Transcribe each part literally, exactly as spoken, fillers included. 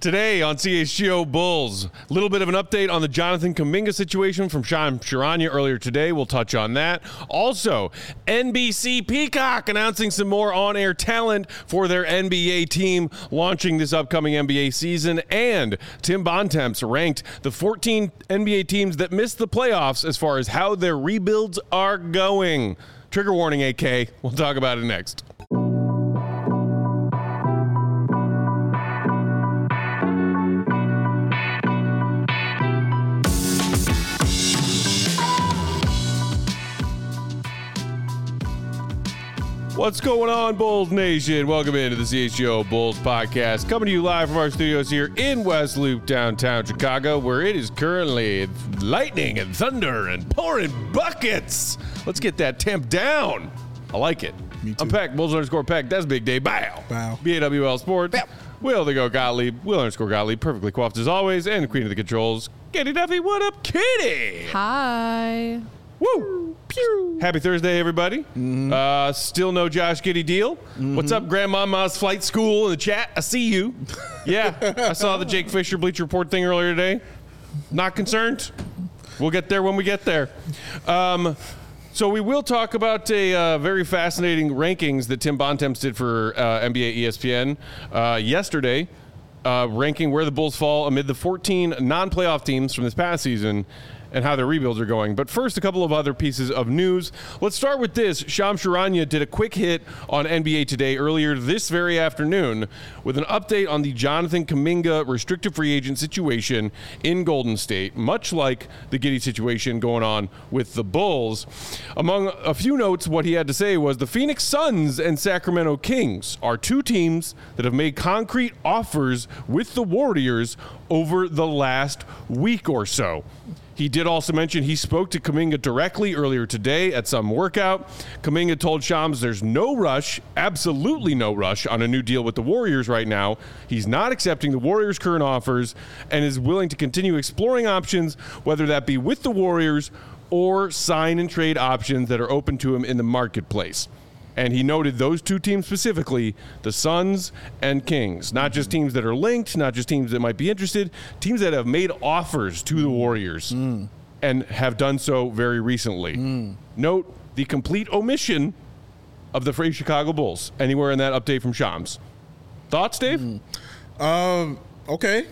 Today on C H G O Bulls, a little bit of an update on the Jonathan Kuminga situation from Shams Charania earlier today. We'll touch on that. Also, N B C Peacock announcing some more on-air talent for their N B A team launching this upcoming N B A season. And Tim Bontemps ranked the fourteen N B A teams that missed the playoffs as far as how their rebuilds are going. Trigger warning, A K. We'll talk about it next. What's going on, Bulls Nation? Welcome into the C H G O Bulls podcast, coming to you live from our studios here in West Loop, downtown Chicago, where it is currently lightning and thunder and pouring buckets. Let's get that temp down. I like it. Me too. I'm Peck, Bulls underscore Peck. That's Big Day. Bow. Bow. B A W L Sports. Bow. Will the go Gottlieb. Will underscore Gottlieb. Perfectly coiffed as always. And the queen of the controls, Katie Duffy. What up, Katie? Hi. Woo! Pew! Happy Thursday, everybody. Mm-hmm. Uh, still no Josh Giddey deal. Mm-hmm. What's up, Grandmama's Flight School in the chat? I see you. Yeah, I saw the Jake Fisher Bleacher Report thing earlier today. Not concerned. We'll get there when we get there. Um, so we will talk about a uh, very fascinating rankings that Tim Bontemps did for uh, N B A E S P N uh, yesterday, uh, ranking where the Bulls fall amid the fourteen non-playoff teams from this past season and how their rebuilds are going. But first, a couple of other pieces of news. Let's start with this. Shams Charania did a quick hit on N B A Today earlier this very afternoon with an update on the Jonathan Kuminga restricted free agent situation in Golden State, much like the Giddey situation going on with the Bulls. Among a few notes, what he had to say was the Phoenix Suns and Sacramento Kings are two teams that have made concrete offers with the Warriors over the last week or so. He did also mention he spoke to Kuminga directly earlier today at some workout. Kuminga told Shams there's no rush, absolutely no rush, on a new deal with the Warriors right now. He's not accepting the Warriors' current offers and is willing to continue exploring options, whether that be with the Warriors or sign and trade options that are open to him in the marketplace. And he noted those two teams specifically, the Suns and Kings. Not just teams that are linked, not just teams that might be interested, teams that have made offers to the Warriors mm. and have done so very recently. Mm. Note the complete omission of the phrase Chicago Bulls anywhere in that update from Shams. Thoughts, Dave? Mm. Um, okay.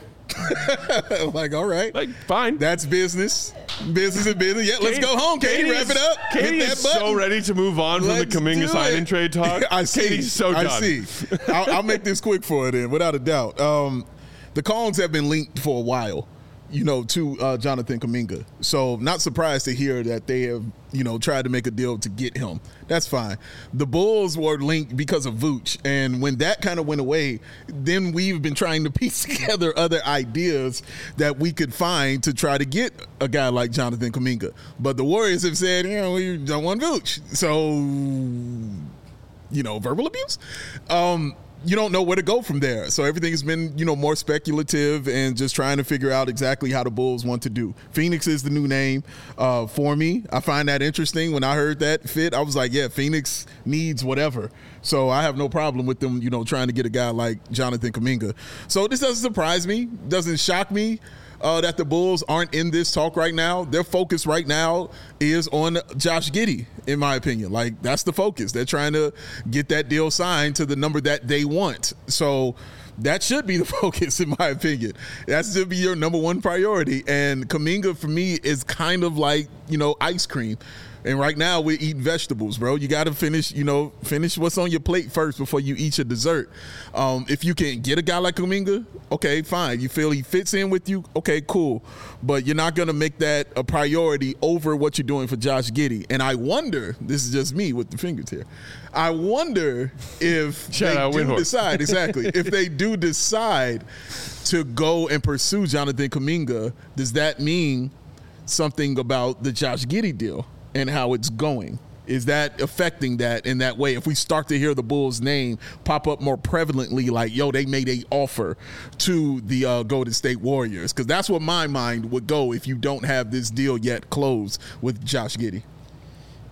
Like, all right. Like, fine. That's business. Business and business. Yeah, let's Katie, go home, Katie. Katie Wrap is, it up. Katie Hit that is button. so ready to move on Let's from the Kuminga sign and trade talk. I see. Katie's so done. I see. I'll, I'll make this quick for it, then, without a doubt. Um, the Cones have been linked for a while, you know, to uh, Jonathan Kuminga. So not surprised to hear that they have, you know, tried to make a deal to get him. That's fine. The Bulls were linked because of Vooch. And when that kind of went away, then we've been trying to piece together other ideas that we could find to try to get a guy like Jonathan Kuminga. But the Warriors have said, you know, we don't want Vooch. So, you know, verbal abuse. Um, you don't know where to go from there. So everything has been, you know, more speculative and just trying to figure out exactly how the Bulls want to do. Phoenix is the new name uh, for me. I find that interesting. When I heard that fit, I was like, yeah, Phoenix needs whatever. So I have no problem with them, you know, trying to get a guy like Jonathan Kuminga. So this doesn't surprise me, doesn't shock me. Uh, that the Bulls aren't in this talk right now. Their focus right now is on Josh Giddey, in my opinion. Like, that's the focus. They're trying to get that deal signed to the number that they want. So that should be the focus, in my opinion. That should be your number one priority. And Kuminga, for me, is kind of like, you know, ice cream. And right now we're eating vegetables, bro. You got to finish, you know, finish what's on your plate first before you eat your dessert. Um, if you can get a guy like Kuminga, okay, fine. You feel he fits in with you, okay, cool. But you're not going to make that a priority over what you're doing for Josh Giddey. And I wonder, this is just me with the fingers here, I wonder if Shout they out do Windhorse. decide, exactly, if they do decide to go and pursue Jonathan Kuminga, does that mean something about the Josh Giddey deal and how it's going? Is that affecting that in that way? If we start to hear the Bulls' name pop up more prevalently, like, yo, they made a offer to the uh, Golden State Warriors, because that's what my mind would go if you don't have this deal yet closed with Josh Giddey.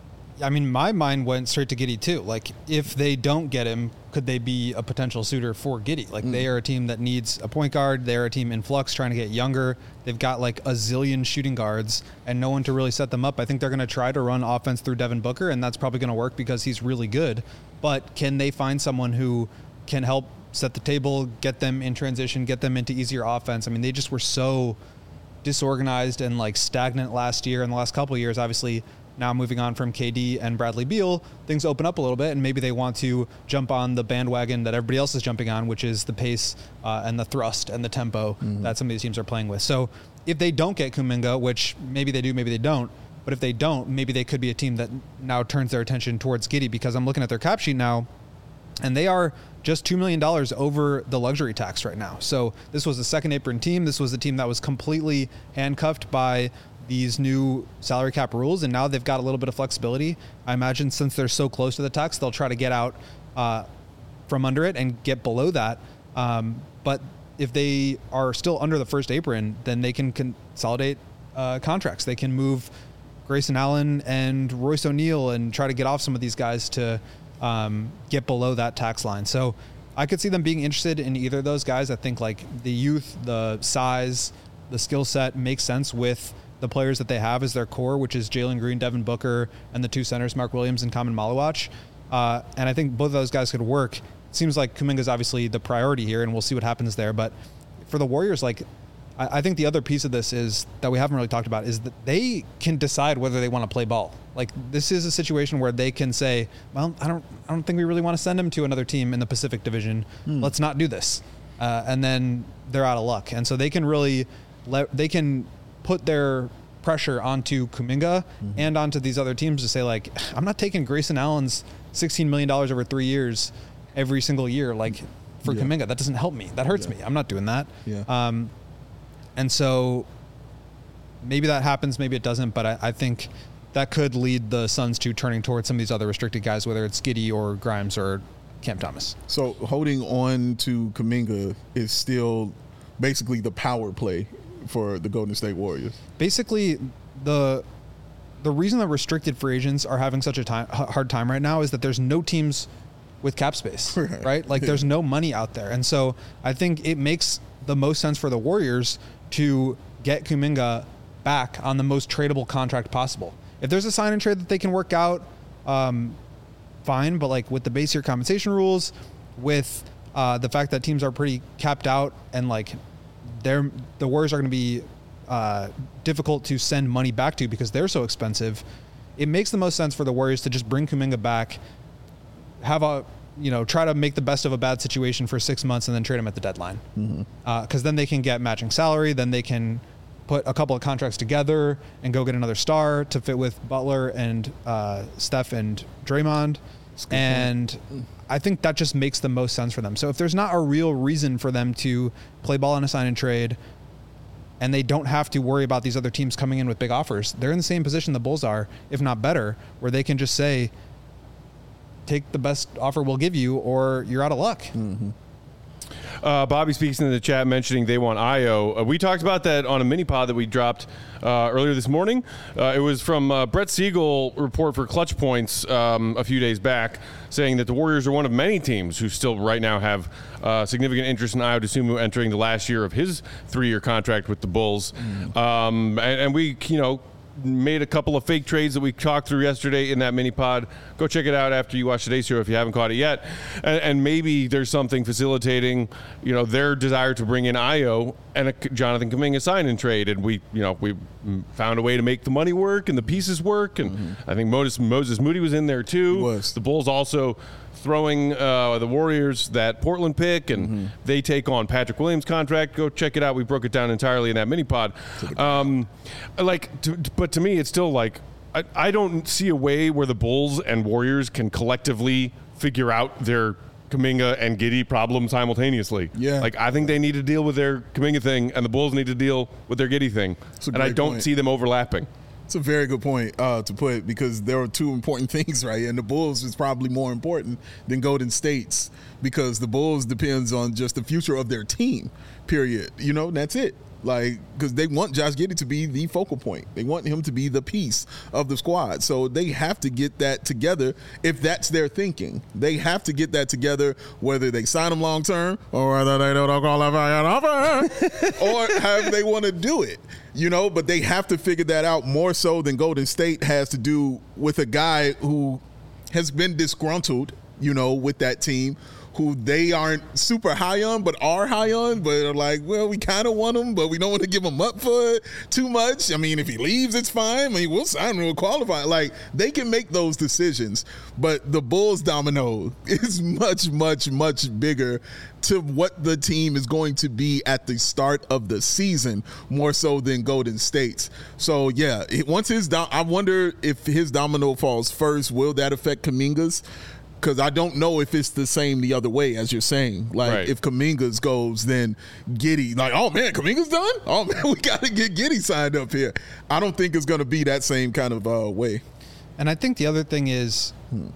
I mean, my mind went straight to Giddey too. Like, if they don't get him, could they be a potential suitor for Giddey? Like, mm. they are a team that needs a point guard. They're a team in flux, trying to get younger. They've got like a zillion shooting guards and no one to really set them up. I think they're going to try to run offense through Devin Booker, and that's probably going to work because he's really good. But can they find someone who can help set the table, get them in transition, get them into easier offense? I mean, they just were so disorganized and like stagnant last year and the last couple of years. Obviously, now moving on from K D and Bradley Beal, things open up a little bit, and maybe they want to jump on the bandwagon that everybody else is jumping on, which is the pace uh, and the thrust and the tempo mm-hmm. that some of these teams are playing with. So if they don't get Kuminga, which maybe they do, maybe they don't, but if they don't, maybe they could be a team that now turns their attention towards Giddey, because I'm looking at their cap sheet now, and they are just two million dollars over the luxury tax right now. So this was a second apron team. This was a team that was completely handcuffed by these new salary cap rules, and now they've got a little bit of flexibility. I imagine since they're so close to the tax, they'll try to get out uh, from under it and get below that. Um, but if they are still under the first apron, then they can consolidate uh, contracts. They can move Grayson Allen and Royce O'Neal and try to get off some of these guys to um, get below that tax line. So I could see them being interested in either of those guys. I think like the youth, the size, the skill set makes sense with the players that they have as their core, which is Jalen Green, Devin Booker, and the two centers, Mark Williams and Kamen Malawach. Uh, and I think both of those guys could work. It seems like Kuminga's obviously the priority here, and we'll see what happens there. But for the Warriors, like, I, I think the other piece of this is that we haven't really talked about is that they can decide whether they want to play ball. Like, this is a situation where they can say, well, I don't, I don't think we really want to send him to another team in the Pacific Division. Hmm. Let's not do this. Uh, and then they're out of luck. And so they can really let, they can put their pressure onto Kuminga mm-hmm. and onto these other teams to say, like, I'm not taking Grayson Allen's sixteen million dollars over three years every single year, like, for yeah. Kuminga. That doesn't help me. That hurts yeah. me. I'm not doing that. Yeah. Um, and so maybe that happens, maybe it doesn't, but I, I think that could lead the Suns to turning towards some of these other restricted guys, whether it's Giddey or Grimes or Cam Thomas. So holding on to Kuminga is still basically the power play for the Golden State Warriors. Basically, the the reason that restricted free agents are having such a time, hard time right now is that there's no teams with cap space, right? right? Like, yeah. there's no money out there. And so I think it makes the most sense for the Warriors to get Kuminga back on the most tradable contract possible. If there's a sign and trade that they can work out, um, fine. But like with the base year compensation rules, with uh, the fact that teams are pretty capped out and like they're, the Warriors are going to be uh, difficult to send money back to because they're so expensive, it makes the most sense for the Warriors to just bring Kuminga back, have a, you know, try to make the best of a bad situation for six months and then trade him at the deadline. Mm-hmm. Uh, 'cause then they can get matching salary. Then they can put a couple of contracts together and go get another star to fit with Butler and uh, Steph and Draymond. And point. I think that just makes the most sense for them. So if there's not a real reason for them to play ball on a sign and trade, and they don't have to worry about these other teams coming in with big offers, they're in the same position the Bulls are, if not better, where they can just say, take the best offer we'll give you or you're out of luck. Mm-hmm. Uh, Bobby speaks in the chat mentioning they want Ayo. Uh, we talked about that on a mini pod that we dropped uh, earlier this morning. Uh, it was from uh, Brett Siegel report for Clutch Points um, a few days back, saying that the Warriors are one of many teams who still right now have uh, significant interest in Ayo Dosunmu entering the last year of his three-year contract with the Bulls. Mm. Um, and, and we, you know, made a couple of fake trades that we talked through yesterday in that mini pod. Go check it out after you watch today's show if you haven't caught it yet. And, and maybe there's something facilitating, you know, their desire to bring in Ayo and a Jonathan Kuminga sign and trade. And we, you know, we found a way to make the money work and the pieces work. And mm-hmm. I think Moses, Moses Moody was in there too. He was. The Bulls also throwing uh, the Warriors that Portland pick, and mm-hmm. they take on Patrick Williams' contract. Go check it out. We broke it down entirely in that mini pod. Um, like, to, but to me, it's still like I, I don't see a way where the Bulls and Warriors can collectively figure out their Kuminga and Giddey problem simultaneously. Yeah. Like, I think they need to deal with their Kuminga thing, and the Bulls need to deal with their Giddey thing. And I don't point. see them overlapping. It's a very good point uh, to put, because there are two important things, right? And the Bulls is probably more important than Golden State's because the Bulls depends on just the future of their team, period. You know, that's it. Like, because they want Josh Giddey to be the focal point. They want him to be the piece of the squad. So they have to get that together if that's their thinking. They have to get that together, whether they sign him long term or whether they don't qualify an offer or however they want to do it. You know, but they have to figure that out more so than Golden State has to do with a guy who has been disgruntled, you know, with that team, who they aren't super high on, but are high on, but are like, well, we kind of want him, but we don't want to give him up for it too much. I mean, if he leaves, it's fine. I mean, we'll sign him, we'll qualify. Like, they can make those decisions, but the Bulls domino is much, much, much bigger to what the team is going to be at the start of the season, more so than Golden State's. So, yeah, it, once his dom- I wonder if his domino falls first, will that affect Kuminga's? Because I don't know if it's the same the other way, as you're saying. Like, right. if Kuminga's goes, then Giddey, like, oh, man, Kuminga's done? Oh, man, we got to get Giddey signed up here. I don't think it's going to be that same kind of uh, way. And I think the other thing is,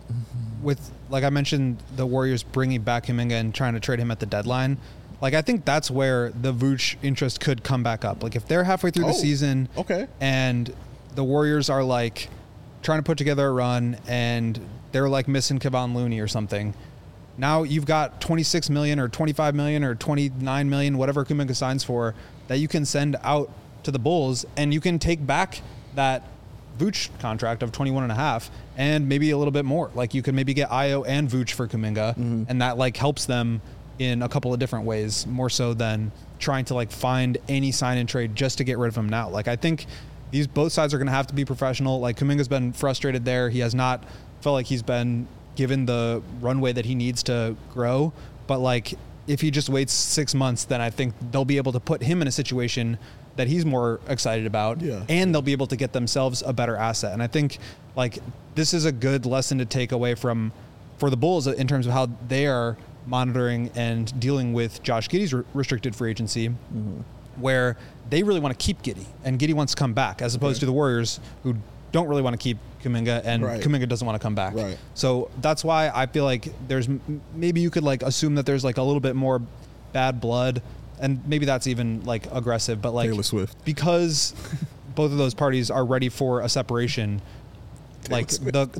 with, like I mentioned, the Warriors bringing back Kuminga and trying to trade him at the deadline, like, I think that's where the Vooch interest could come back up. Like, if they're halfway through oh, the season okay. and the Warriors are, like, trying to put together a run and they're like missing Kevon Looney or something. Now you've got twenty-six million or twenty-five million or twenty-nine million, whatever Kuminga signs for, that you can send out to the Bulls, and you can take back that Vooch contract of twenty-one and a half and maybe a little bit more. Like, you could maybe get Ayo and Vooch for Kuminga, mm-hmm. and that like helps them in a couple of different ways, more so than trying to like find any sign and trade just to get rid of him now. Like, I think these both sides are going to have to be professional. Like, Kuminga's been frustrated there. He has not felt like he's been given the runway that he needs to grow. But like, if he just waits six months, then I think they'll be able to put him in a situation that he's more excited about, yeah. and they'll be able to get themselves a better asset. And I think like this is a good lesson to take away from for the Bulls in terms of how they are monitoring and dealing with Josh Giddey's re- restricted free agency, mm-hmm. where they really want to keep Giddey and Giddey wants to come back, as opposed okay. to the Warriors who don't really want to keep Kuminga, and right. Kuminga doesn't want to come back. Right. So that's why I feel like there's maybe you could like assume that there's like a little bit more bad blood, and maybe that's even like aggressive, but like Taylor Swift, because both of those parties are ready for a separation. Taylor like Swift. the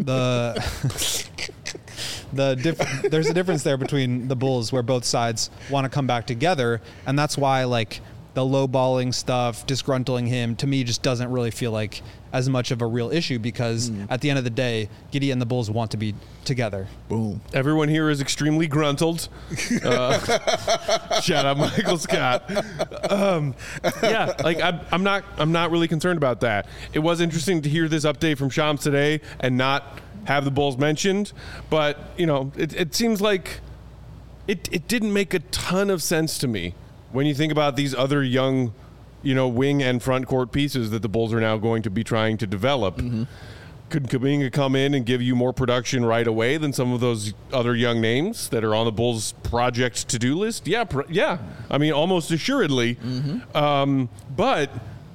the the diff- there's a difference there between the Bulls where both sides want to come back together, and that's why like the lowballing stuff, disgruntling him, to me just doesn't really feel like as much of a real issue, because mm. at the end of the day, Giddey and the Bulls want to be together. Boom. Everyone here is extremely gruntled. Uh, shout out Michael Scott. Um, yeah, like I'm, I'm not, I'm not really concerned about that. It was interesting to hear this update from Shams today and not have the Bulls mentioned, but you know, it, it seems like it, it didn't make a ton of sense to me when you think about these other young, you know, wing and front court pieces that the Bulls are now going to be trying to develop. Mm-hmm. Could Kuminga come in and give you more production right away than some of those other young names that are on the Bulls' project to-do list? Yeah, pr- yeah. I mean, almost assuredly. Mm-hmm. Um, but,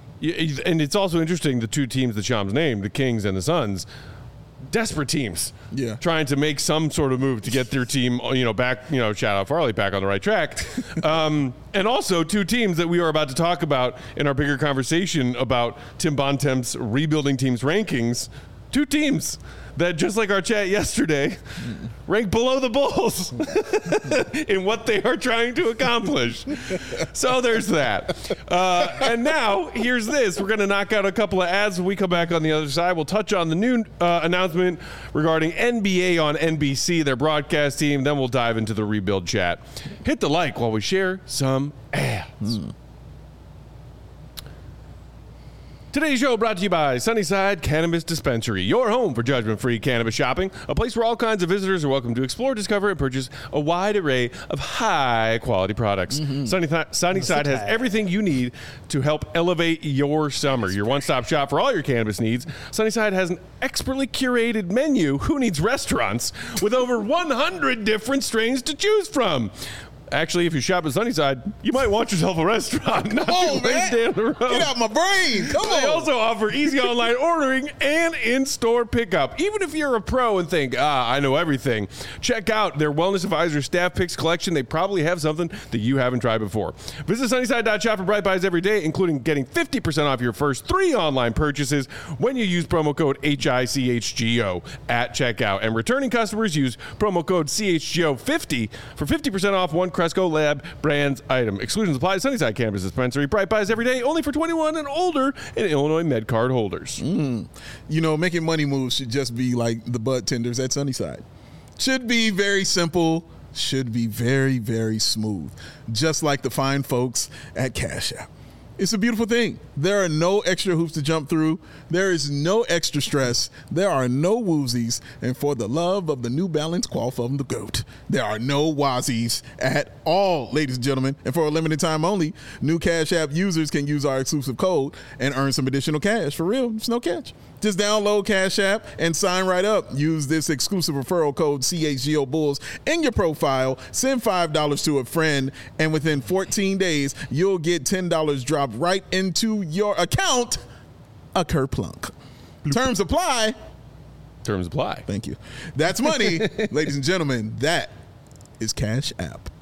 and it's also interesting, the two teams that Shams named, the Kings and the Suns, desperate teams, yeah, trying to make some sort of move to get their team, you know, back, you know, shout out Farley, back on the right track. Um, and also two teams that we are about to talk about in our bigger conversation about Tim Bontemps rebuilding teams rankings. Two teams that, just like our chat yesterday, rank below the Bulls in what they are trying to accomplish. So there's that. Uh, and now, here's this. We're going to knock out a couple of ads. When we come back on the other side, we'll touch on the new uh, announcement regarding N B A on N B C, their broadcast team. Then we'll dive into the rebuild chat. Hit the like while we share some ads. Mm. Today's show brought to you by Sunnyside Cannabis Dispensary, your home for judgment-free cannabis shopping, a place where all kinds of visitors are welcome to explore, discover, and purchase a wide array of high-quality products. Mm-hmm. Sunnyside, Sunnyside has everything you need to help elevate your summer. Your one-stop shop for all your cannabis needs. Sunnyside has an expertly curated menu. Who needs restaurants? With over one hundred different strains to choose from. Actually, if you shop at Sunnyside, you might want yourself a restaurant. Not Oh, too late man. down the road. Get out my brain. Come They on. also offer easy online ordering and in-store pickup. Even if you're a pro and think, ah, I know everything, check out their Wellness Advisor Staff Picks collection. They probably have something that you haven't tried before. Visit Sunnyside dot shop for Bright Buys every day, including getting fifty percent off your first three online purchases when you use promo code H I C H G O at checkout. And returning customers use promo code C H G O fifty for fifty percent off one Cresco Lab brands item. Exclusions apply to Sunnyside Campus Dispensary. Bright Buys every day, only for twenty-one and older and Illinois Med Card holders. Mm. You know, making money moves should just be like the bud tenders at Sunnyside. Should be very simple, should be very, very smooth. Just like the fine folks at Cash App. It's a beautiful thing. There are no extra hoops to jump through. There is no extra stress. There are no woozies. And for the love of the New Balance Qual from the GOAT, there are no wazies at all, ladies and gentlemen. And for a limited time only, new Cash App users can use our exclusive code and earn some additional cash. For real, it's no catch. Just download Cash App and sign right up. Use this exclusive referral code C H G O Bulls in your profile. Send five dollars to a friend, and within fourteen days, you'll get ten dollars dropped right into your account. A kerplunk. Terms apply. Terms apply. Thank you. That's money, ladies and gentlemen. That is Cash App.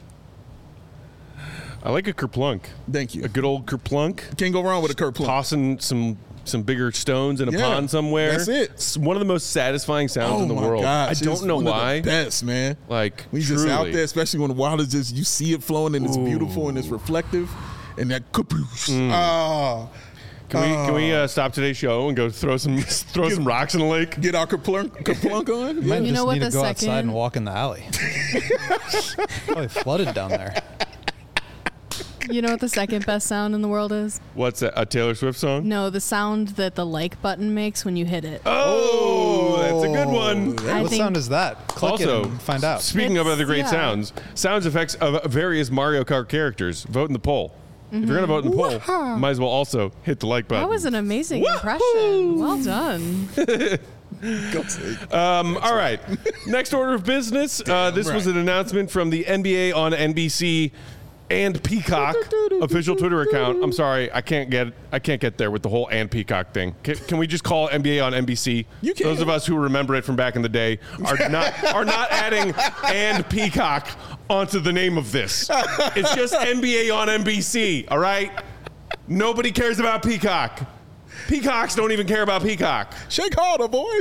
I like a kerplunk. Thank you. A good old kerplunk. Can't go wrong with a kerplunk. Tossing some some bigger stones in a Yeah, pond somewhere. that's it. It's one of the most satisfying sounds Oh in the my world. gosh, I don't it's know one of why. the best, man. Like, we just truly. out there, especially when the water just you see it flowing and it's Ooh. beautiful and it's reflective, and that kapoosh. Mm. Ah, Can we can we uh, stop today's show and go throw some throw some rocks in the lake? get our kerplunk, kerplunk on. Might Yeah. just You know what, need to the go outside second- and walk in the alley. Probably flooded down there. You know what the second best sound in the world is? What's that? A Taylor Swift song? No, the sound that the like button makes when you hit it. Oh, that's a good one. I What think sound is that? Click Also, it and find out. speaking of It's- other great yeah. sounds, sounds effects of various Mario Kart characters. Vote in the poll. If you're gonna vote in the poll, Wah-ha. might as well also hit the like button. that was an amazing Wahoo! impression. Well done. Go take. Um, all right. Next order of business. Uh, this was right. an announcement from the N B A on N B C and Peacock official Twitter account. I'm sorry, I can't get I can't get there with the whole and Peacock thing. Can, can we just call it N B A on N B C? You can. Those of us who remember it from back in the day are not are not adding and Peacock onto the name of this. It's just N B A on N B C. All right. Nobody cares about Peacock. Peacocks don't even care about Peacock. Shake harder, boy.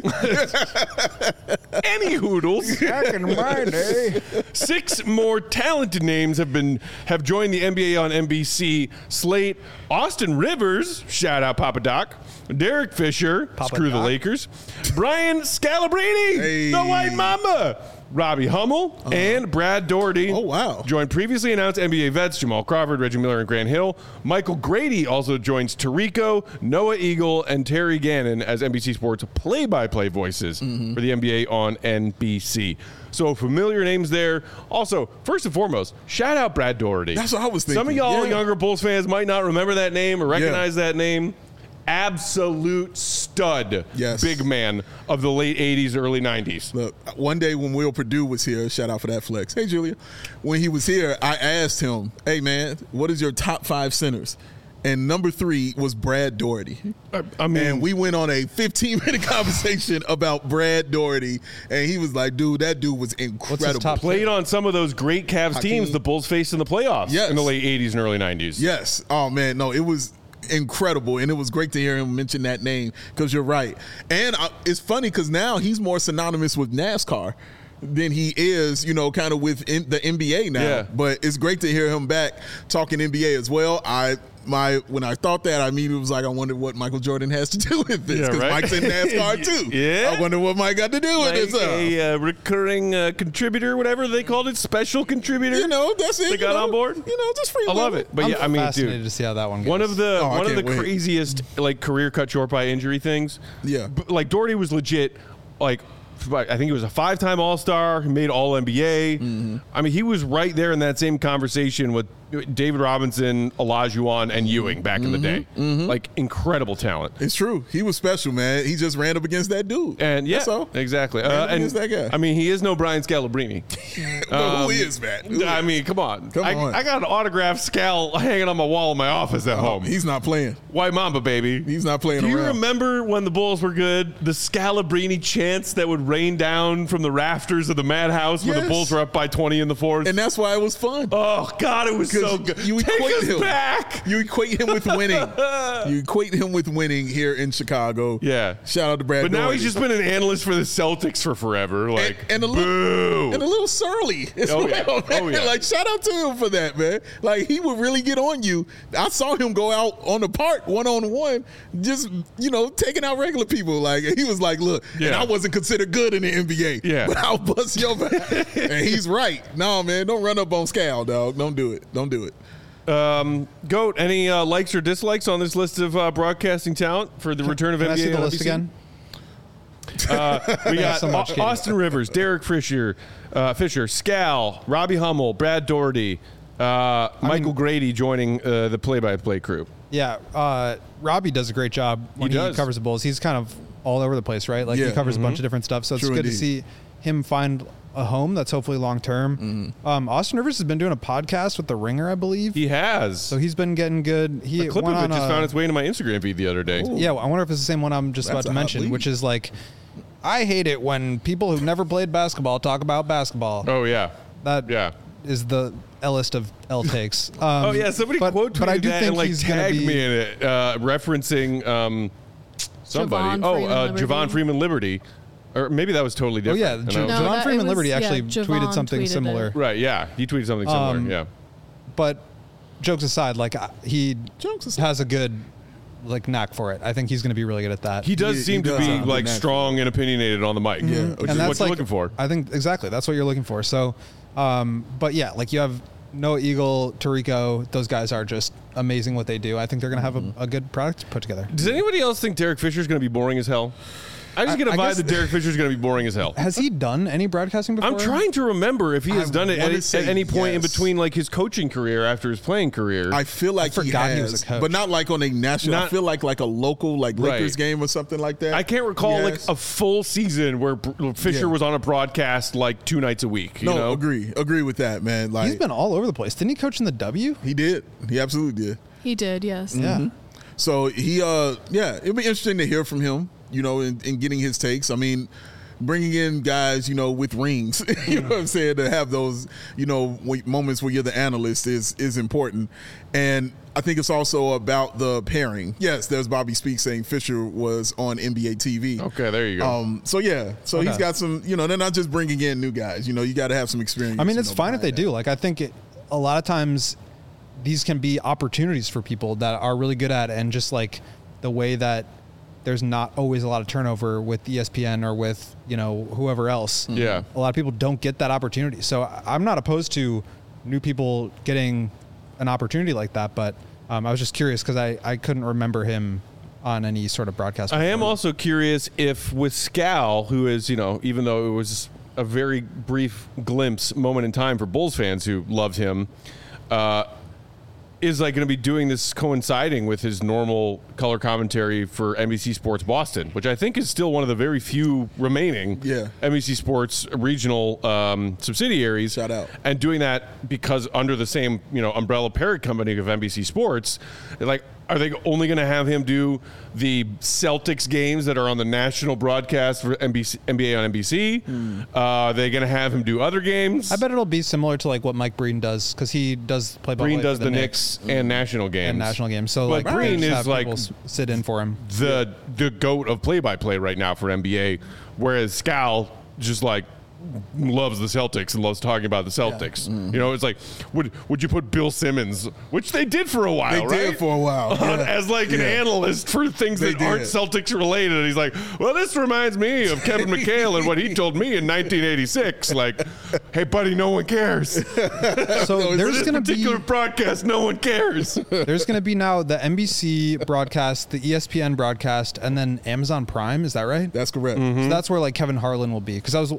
Any hoodles. Back in my day. Six more talented names have been have joined the N B A on N B C slate. Austin Rivers, shout out Papa Doc. Derek Fisher, Papa screw the Doc. Lakers. Brian Scalabrine, Hey. the White Mamba. Robbie Hummel and Brad Doherty. Oh, wow. Joined previously announced N B A vets Jamal Crawford, Reggie Miller, and Grant Hill. Michael Grady also joins Tarico, Noah Eagle, and Terry Gannon as N B C Sports play-by-play voices Mm-hmm. for the N B A on N B C. So familiar names there. Also, first and foremost, shout out Brad Doherty. That's what I was Some of thinking. y'all Yeah. younger Bulls fans might not remember that name or recognize that name. Absolute stud, Yes. big man of the late eighties, early nineties. Look, one day when Will Purdue was here, shout out for that flex. Hey, Julia. When he was here, I asked him, hey, man, what is your top five centers? And number three was Brad Doherty. I, I mean, And we went on a fifteen-minute conversation about Brad Doherty, and he was like, dude, that dude was incredible. top played on some of those great Cavs Hakeem. teams the Bulls faced in the playoffs Yes. in the late eighties and early nineties. Yes. Oh, man, no, it was incredible, and it was great to hear him mention that name because you're right. And I, it's funny because now he's more synonymous with NASCAR than he is, you know, kind of with in, the N B A now. Yeah. But it's great to hear him back talking N B A as well. I my when I thought that, I immediately was like, I wonder what Michael Jordan has to do with this Yeah, because right? Mike's in NASCAR too. Yeah. I wonder what Mike got to do with Like this. Uh, a uh, recurring uh, contributor, whatever they called it, special contributor. you know, that's it. They you got know, on board? You know, just free. I love will. it. But I'm yeah, I mean, fascinated dude, to see how that one goes. one of the Oh, I one of the can't wait. craziest like career cut short by injury things. Yeah. B- like Doherty was legit. Like I think he was a five-time All-Star. He made All N B A. Mm-hmm. I mean, he was right there in that same conversation with David Robinson, Olajuwon, and Ewing back in the day. Like, incredible talent. It's true. He was special, man. He just ran up against that dude. And yeah, That's all. exactly. Ran Uh, up and against that guy. I mean, he is no Brian Scalabrine. But who is that? Who I is- mean, come on. Come I, on. I got an autographed Scal hanging on my wall in my office at home. He's not playing. White Mamba, baby. He's not playing Do you around. remember when the Bulls were good? The Scalabrini chants that would rain down from the rafters of the Madhouse when the Yes. Bulls were up by twenty in the fourth? And that's why it was fun. Oh God, it was so 'Cause good. you Take equate us him. back. You equate him with winning. You equate him with winning here in Chicago. Yeah. Shout out to Brad. But now Doherty. he's just been an analyst for the Celtics for forever. Like, and, and a little boo. and a little surly as Oh, well. yeah. Man. Oh, yeah. Like shout out to him for that, man. Like he would really get on you. I saw him go out on the park one on one, just you know taking out regular people. Like he was like, look, and Yeah. I wasn't considered good in the N B A. Yeah. but I'll bust your back. And he's right. No, man, don't run up on Scal, dog. Don't do it. Don't do it. Um, Goat, any uh, likes or dislikes on this list of uh, broadcasting talent for the return of Can N I B A see the on list N B C? again? We got so much, Au- Katie. Austin Rivers, Derek Fisher, uh, Fisher, Scal, Robbie Hummel, Brad Doherty, uh, Michael Grady joining uh, the play-by-play crew. Yeah, uh, Robbie does a great job when he, does. covers the Bulls. He's kind of all over the place, right? Like Yeah. he covers Mm-hmm. a bunch of different stuff. So it's True good to indeed. see him find a home that's hopefully long term. Mm-hmm. Um, Austin Rivers has been doing a podcast with The Ringer, I believe. He has. so he's been getting good. He a clip went of it on just a- found its way into my Instagram feed the other day. Yeah, I wonder if it's the same one I'm just That's about a to hot mention, lead. which is like, I hate it when people who've never played basketball talk about basketball. Oh, yeah. That Yeah. is the L-list of L takes. Um, Oh, yeah. Somebody but, quote tweeted but I do that think and, like, he's gonna tagged be, me in it, uh, referencing um, somebody. Javon oh, Freeman uh, Liberty. Javon Freeman Liberty. Or maybe that was totally Oh different. yeah, And J- I was- No, Javon that- Freeman it was- Liberty yeah, actually Javon tweeted something tweeted similar. it. Right, yeah. He tweeted something similar, Um, yeah. But jokes aside, like I- he Jokes aside. has a good like knack for it. I think he's going to be really good at that. He does He- seem he to does be have a good like knack for strong and opinionated on the mic. Yeah, which and is that's what you're like- looking for. I think exactly that's what you're looking for. So, um, but yeah, like you have Noah Eagle, Tarico. Those guys are just amazing what they do. I think they're going to have a, a good product put together. Does anybody else think Derek Fisher's going to be boring as hell? I just I- get a I vibe guess- that Derek Fisher's going to be boring as hell. Has he done any broadcasting before? I'm trying to remember if he has I done it at, wanna at say any point in yes. between like his coaching career after his playing career. I feel like he forgot has, he was a coach. but not like on a national. I Not- feel like like a local like Right. Lakers game or something like that. I can't recall He like has. a full season where Br- Fisher Yeah. was on a broadcast like two nights a week. You no know? agree agree with that, man. Like He's been all over the place. Didn't he coach in the W? he did, he absolutely did. He did, yes. Yeah. So he, uh, yeah, it'd be interesting to hear from him, you know, in, in getting his takes. I mean, bringing in guys, you know, with rings, you know what I'm saying, to have those, you know, w- moments where you're the analyst is is important. And I think it's also about the pairing. Yes, there's Bobby Speak saying Fisher was on N B A T V. Okay, there you go. Um, so yeah, so he's Okay. got some, you know, they're not just bringing in new guys. You know, you got to have some experience. I mean, you it's know, fine if they behind do. Like, I think it, a lot of times these can be opportunities for people that are really good at it, and just like the way that there's not always a lot of turnover with E S P N or with, you know, whoever else. Yeah. A lot of people don't get that opportunity. So I- I'm not opposed to new people getting an opportunity like that, but um, I was just curious because I, I couldn't remember him on any sort of broadcast. I am before. also curious if with Scal, who is, you know, even though it was a very brief glimpse moment in time for Bulls fans who loved him, uh, is like going to be doing this coinciding with his normal color commentary for N B C Sports Boston, which I think is still one of the very few remaining Yeah. N B C Sports regional um, subsidiaries. Shout out. And doing that because under the same, you know, umbrella parent company of N B C Sports, like, are they only going to have him do the Celtics games that are on the national broadcast for N B C, N B A on N B C? Hmm. Uh, are they going to have him do other games? I bet it'll be similar to like what Mike Breen does because he does play. Breen does the Knicks and national games. and national games. So But like Breen just is have like people s- sit in for him. the the goat of play-by-play right now for N B A, whereas Scal just like loves the Celtics and loves talking about the Celtics. Mm-hmm. You know, it's like, would would you put Bill Simmons, which they did for a while, They right? did for a while, On- yeah. as like an Yeah. analyst for things They that aren't did. Celtics related. And he's like, well, this reminds me of Kevin McHale and what he told me in nineteen eighty-six. Like, hey, buddy, no one cares. So For there's this going to be particular broadcast, no one cares. there's going to be now the N B C broadcast, the E S P N broadcast, and then Amazon Prime. Is that right? That's correct. Mm-hmm. So that's where like Kevin Harlan will be because I was I was thinking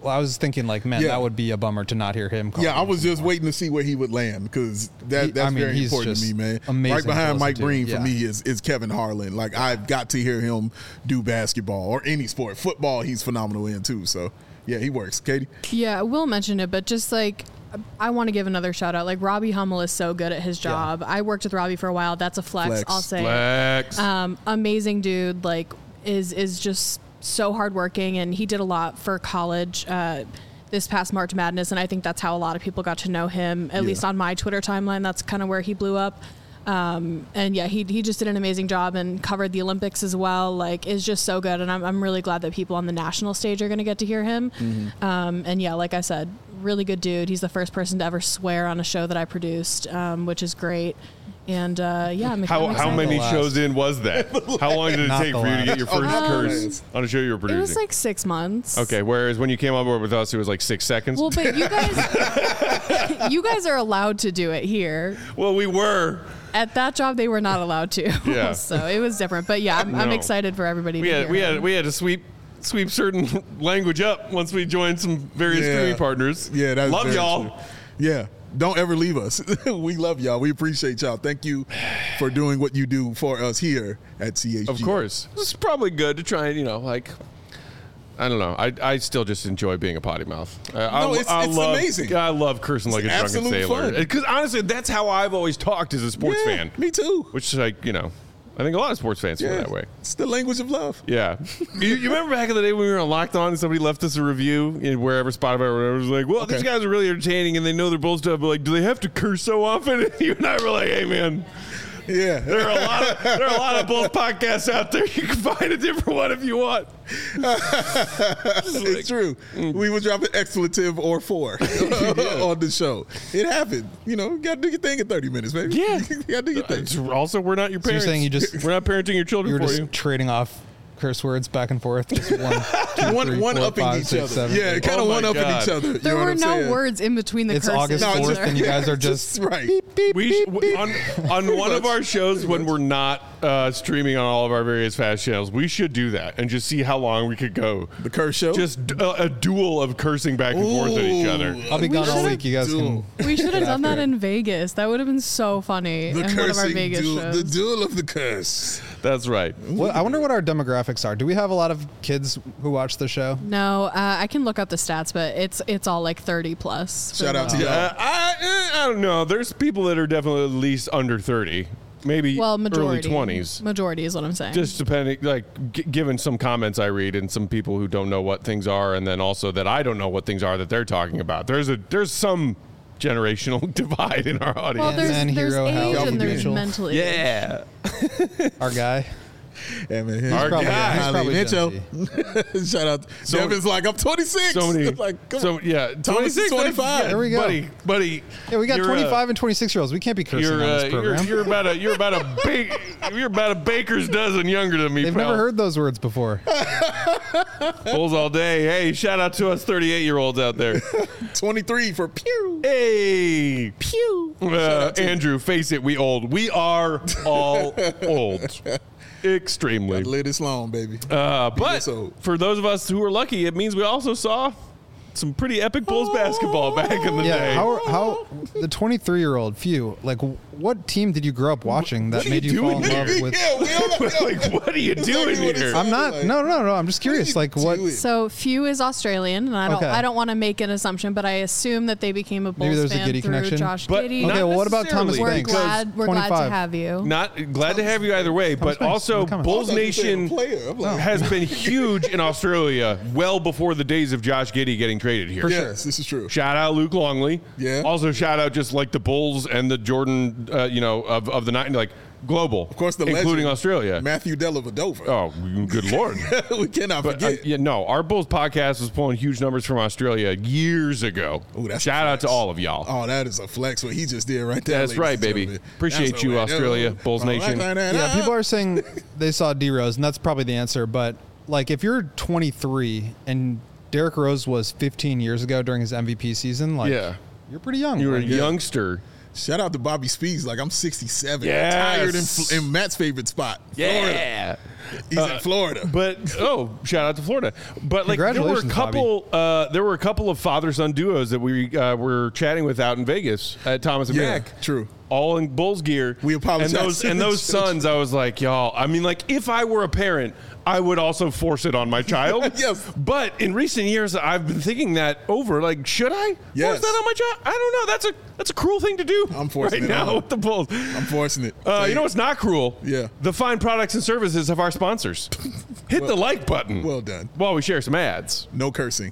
thinking like, man, Yeah. that would be a bummer to not hear him. Call Yeah, I him was just anymore. waiting to see where he would land because that, He- that's I mean, very he's important to me, just man. amazing Right to behind listen Mike to. Breen for Yeah. me is, is Kevin Harlan. Like I've got to hear him do basketball or any sport. Football, he's phenomenal in too. So yeah, he works. Katie? Yeah, Will mentioned it, but just like I want to give another shout out. Like Robbie Hummel is so good at his job. I worked with Robbie for a while. That's a flex. Flex. I'll say. Flex. Um, amazing dude. Like is is just so hardworking, and he did a lot for college. Uh, this past March Madness, and I think that's how a lot of people got to know him. At Yeah. least on my Twitter timeline, that's kind of where he blew up. Um, and yeah, he he just did an amazing job and covered the Olympics as well. Like, is just so good, and I'm I'm really glad that people on the national stage are going to get to hear him. Mm-hmm. Um, and yeah, like I said, really good dude. He's the first person to ever swear on a show that I produced, um, which is great. And uh, yeah, I'm, How I'm how excited. many The last. shows in was that? How long did it Not take the for you to last. get your first Um, curse on a show you were It producing? was like six months. Okay, whereas when you came on board with us, it was like six seconds. Well, but you guys, you guys are allowed to do it here. Well, we were. At that job, they were not allowed to. Yeah. So it was different. But yeah, I'm, I'm No. excited for everybody We to had hear we had him. we had to sweep sweep certain language up once we joined some various Yeah. streaming partners. Yeah, that's love very y'all. true. Yeah. Don't ever leave us. We love y'all. We appreciate y'all. Thank you for doing what you do for us here at C H G. Of course, it's probably good to try and you know like. I don't know. I, I still just enjoy being a potty mouth. Uh, I, No, it's- I it's love, amazing. I love cursing like a It's drunken absolute sailor. fun. Because honestly, that's how I've always talked as a sports Yeah, fan. me too. Which is like you know, I think a lot of sports fans feel Yeah. that way. It's the language of love. Yeah. you, you remember back in the day when we were on Locked On and somebody left us a review in wherever Spotify or whatever? It was like, well, Okay. these guys are really entertaining and they know their bull stuff, but like, do they have to curse so often? And you and I were like, hey, man, Yeah. there are a lot of there are a lot of Bulls podcasts out there. You can find a different one if you want. It's true. We would drop an expletive or four on the show. It happened. You know, you got to do your thing in thirty minutes, baby. Yeah. you got to do your thing. It's also, we're not your So you're parents. saying you just- we're not parenting your children You were for just you. trading off curse words back and forth. Just one, two, One, three, one four, upping five, each six, other. seven, yeah, eight. kind of Oh my one upping God. each other. You There know were what I'm no saying? words in between the It's curses. August No, it's fourth, just- and you guys are just right. We sh- w- on on one of our shows when we're not uh, streaming on all of our various fast channels, we should do that and just see how long we could go. The curse show. Just d- a, a duel of cursing back and forth at each other. I'll be We gone all should've- week. You guys can. We should have done after that it. in Vegas. That would have been so funny the in one of our cursing Vegas duel. shows. The duel of the curse. That's right. What, I wonder what our demographics are. Do we have a lot of kids who watch the show? No, uh, I can look up the stats, but it's it's all like thirty plus. for Shout out the- to y'all. Uh, I, eh, I don't know. There's people that are definitely at least under thirty, maybe well, majority early twenties. Majority is what I'm saying. Just depending, like, g- given some comments I read and some people who don't know what things are, and then also that I don't know what things are that they're talking about. There's a there's some generational divide in our well, audience. there's, Man, there's hero, age Hal and there's Mitchell. mental age. yeah. Our guy. Yeah, man. He's Our Probably, guy. he's probably Mitchell. Gen Z. Shout out. So- Devin's like, I'm twenty-six. So many, like, come so on. yeah, Thomas is twenty-six, twenty-five. yeah, There we go. buddy, buddy. Yeah, we got you're, uh, twenty-five and twenty-six year olds. We can't be cursing You're, on uh, this you're, program. you're about a you're about a big you're about a baker's dozen younger than me. They've pal. never heard those words before. Bulls all day. Hey, shout out to us thirty-eight year olds out there. twenty-three for pew. Hey, Pew. uh, Andrew, face it, we old. We are all old, extremely. Live this long, baby. Uh, but this old. for those of us who are lucky, it means we also saw some pretty epic Bulls basketball back in the Yeah, day. how how the twenty-three year old few like what team did you grow up watching that What are made you you fall in doing love here? with? yeah, we all like, like, what are you Exactly doing what it here? sounds I'm not. like. No, no, no. I'm just curious. Like what? doing? So Few is Australian, and I don't Okay. I don't want to make an assumption, but I assume that they became a Bulls Maybe there's a fan Giddy through connection. Josh But Giddy. not Okay, well, what about Thomas necessarily, We're Banks? because glad we're glad to twenty-five. have you. Not glad to have you either way, but Banks, also we're coming. Bulls I thought you said a Nation player. I'm like, has been huge in Australia well before the days of Josh Giddey getting traded here. yes, this is true. Shout out Luke Longley. Yeah. Also shout out just like the Bulls and the Jordan, uh, you know, of, of the night, like global. Of course, the including legend, Australia. Matthew Dellavedova. Oh, good lord. we cannot But uh, forget. yeah, no, our Bulls podcast was pulling huge numbers from Australia years ago. Ooh, that's Shout a out to flex. all of y'all. Oh, that is a flex. What he just did right there. That's ladies right, and baby. gentlemen. Appreciate That's you, all right. Australia, Oh, Bulls oh, Nation. like that. Yeah, people are saying they saw D Rose, and that's probably the answer. But like, if you're twenty-three and Derrick Rose was fifteen years ago during his M V P season, like, Yeah. you're pretty young. You were a Like, youngster. Shout out to Bobby Speeds. Like, I'm sixty-seven. Yes. Tired in, in Matt's favorite spot. Florida. Yeah. He's Uh, in Florida. But oh, shout out to Florida! But like there were a Congratulations, couple, uh, there were a couple of father-son duos that we uh, were chatting with out in Vegas at Thomas and Yeah, Mack. true. All in Bulls gear. We apologize. And those and those sons, I was like, y'all. I mean, like if I were a parent, I would also force it on my child. Yes. But in recent years, I've been thinking that over. Like, should I Yes. force that on my child? I don't know. That's a that's a cruel thing to do. I'm forcing right it now on. with the Bulls. I'm forcing it. Uh, you know what's not cruel? Yeah. The fine products and services of our sponsors. Hit the like button. Well done. While we share some ads. No cursing.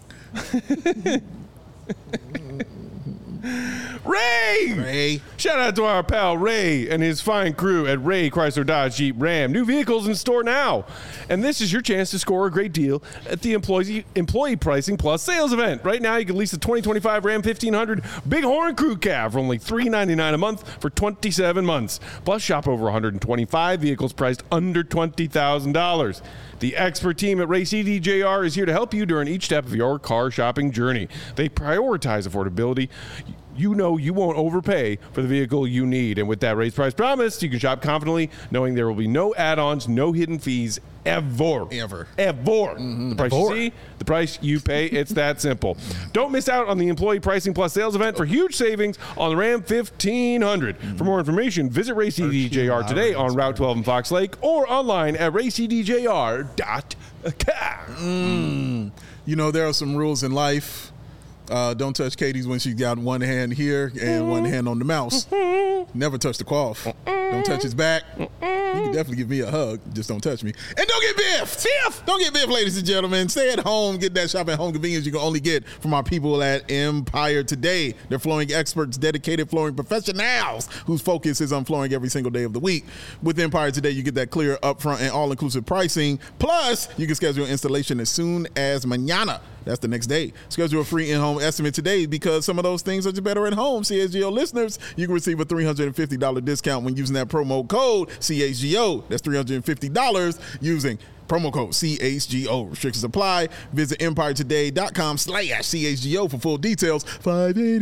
Ray! Ray. Shout out to our pal Ray and his fine crew at Ray Chrysler Dodge Jeep Ram. New vehicles in store now. And this is your chance to score a great deal at the employee employee pricing plus sales event. Right now, you can lease the twenty twenty-five Ram fifteen hundred Bighorn Crew Cab for only three hundred ninety-nine dollars a month for twenty-seven months. Plus, shop over one hundred twenty-five vehicles priced under twenty thousand dollars. The expert team at Ray C D J R is here to help you during each step of your car shopping journey. They prioritize affordability. You know you won't overpay for the vehicle you need. And with that raised price promise, you can shop confidently knowing there will be no add-ons, no hidden fees, ever. Ever. Ever. Mm-hmm. The price Ever. you see, the price you pay. It's that simple. Don't miss out on the employee pricing plus sales event for huge savings on the Ram fifteen hundred. For more information, visit Ray C D J R today on Route twelve in Fox Lake or online at ray c d j r dot com. Mm. You know, there are some rules in life. Uh, don't touch Katie's when she's got one hand here and one hand on the mouse. Never touch the quaff. Don't touch his back. You can definitely give me a hug. Just don't touch me. And don't get biffed. Biff! Don't get biffed, ladies and gentlemen. Stay at home. Get that shop at home convenience you can only get from our people at Empire Today. They're flooring experts, dedicated flooring professionals whose focus is on flooring every single day of the week. With Empire Today, you get that clear, upfront, and all-inclusive pricing. Plus, you can schedule installation as soon as mañana. That's the next day. Schedule a free in-home estimate today because some of those things are just better at home. C H G O listeners, you can receive a three hundred fifty dollars discount when using that promo code C H G O. That's three hundred fifty dollars using promo code C H G O. Restrictions apply. Visit empire today dot com slash C H G O for full details. five eight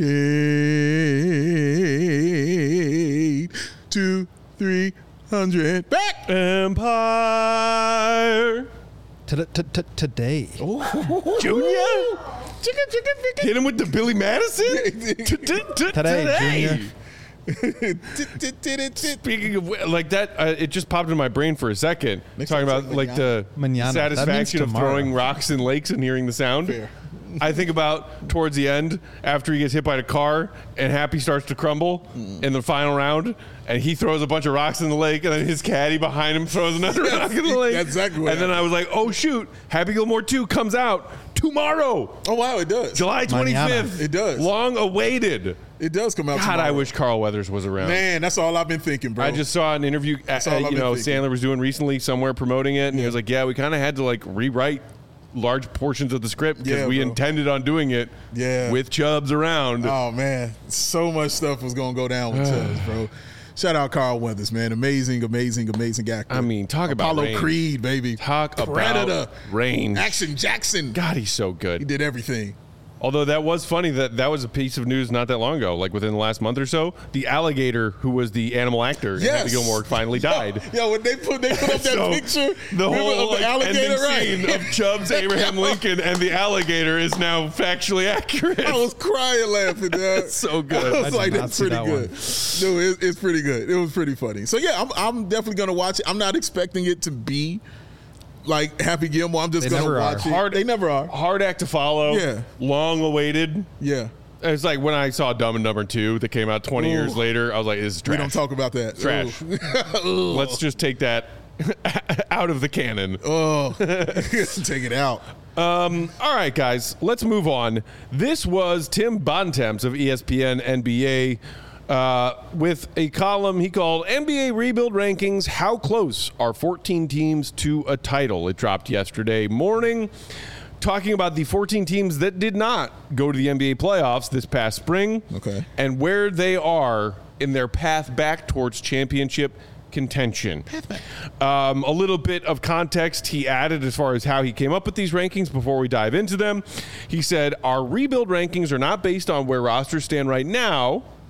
eight, two three hundred. Back! Empire. Today. Junior? Hit him with the Billy Madison? Today, Junior. Speaking of like that, uh, it just popped in my brain for a second. Makes talking sense, about like like the Mañana. That means satisfaction of tomorrow. throwing rocks in lakes and hearing the sound. Fair. I think about towards the end after he gets hit by the car and Happy starts to crumble in the final round, and he throws a bunch of rocks in the lake, and then his caddy behind him throws another Yes, rock in the lake. that's exactly what And then I was like, oh shoot, Happy Gilmore two comes out tomorrow, Oh, wow, it does. July twenty-fifth. It does. Long awaited. It does come out God, tomorrow. I wish Carl Weathers was around. Man, that's all I've been thinking, bro. I just saw an interview, uh, all I've you been know, thinking. Sandler was doing recently somewhere promoting it, and he was like, yeah, we kind of had to like rewrite large portions of the script because Yeah, we bro. intended on doing it Yeah. with Chubbs around. Oh man, so much stuff was gonna go down with Chubbs, bro. Shout out Carl Weathers, man. Amazing, amazing, amazing actor. I mean, talk about Apollo range. Creed, baby. Talk Predator. about range. Action Jackson. God, he's so He good. did everything. Although that was funny that that was a piece of news not that long ago, like within the last month or so. The alligator who was the animal actor in Yes. Happy Gilmore finally died. Yo, when they put they put up that So, picture the remember, whole of like, the alligator, ending right? scene of Chubbs, Abraham Lincoln, and the alligator is now factually accurate. I was crying laughing, dog. It's so good. I I was did like, not that's see pretty that good. No, it, it's pretty good. It was pretty funny. So yeah, I'm I'm definitely gonna watch it. I'm not expecting it to be like Happy Gilmore. I'm just They gonna never are. watch it. Hard- they never are. Hard act to follow. Yeah. Long awaited. Yeah. It's like when I saw Dumb and Dumber two that came out twenty Ooh. years later. I was like, this is trash. We don't talk about that. Trash. Ooh. Let's just take that out of the canon. Oh, take it out. Um, all right, guys, let's move on. This was Tim Bontemps of E S P N N B A uh, with a column he called N B A Rebuild Rankings, How Close Are fourteen Teams to a Title? It dropped yesterday morning, talking about the fourteen teams that did not go to the N B A playoffs this past spring. Okay. And where they are in their path back towards championship contention. Um, a little bit of context he added as far as how he came up with these rankings before we dive into them. He said, our rebuild rankings are not based on where rosters stand right now,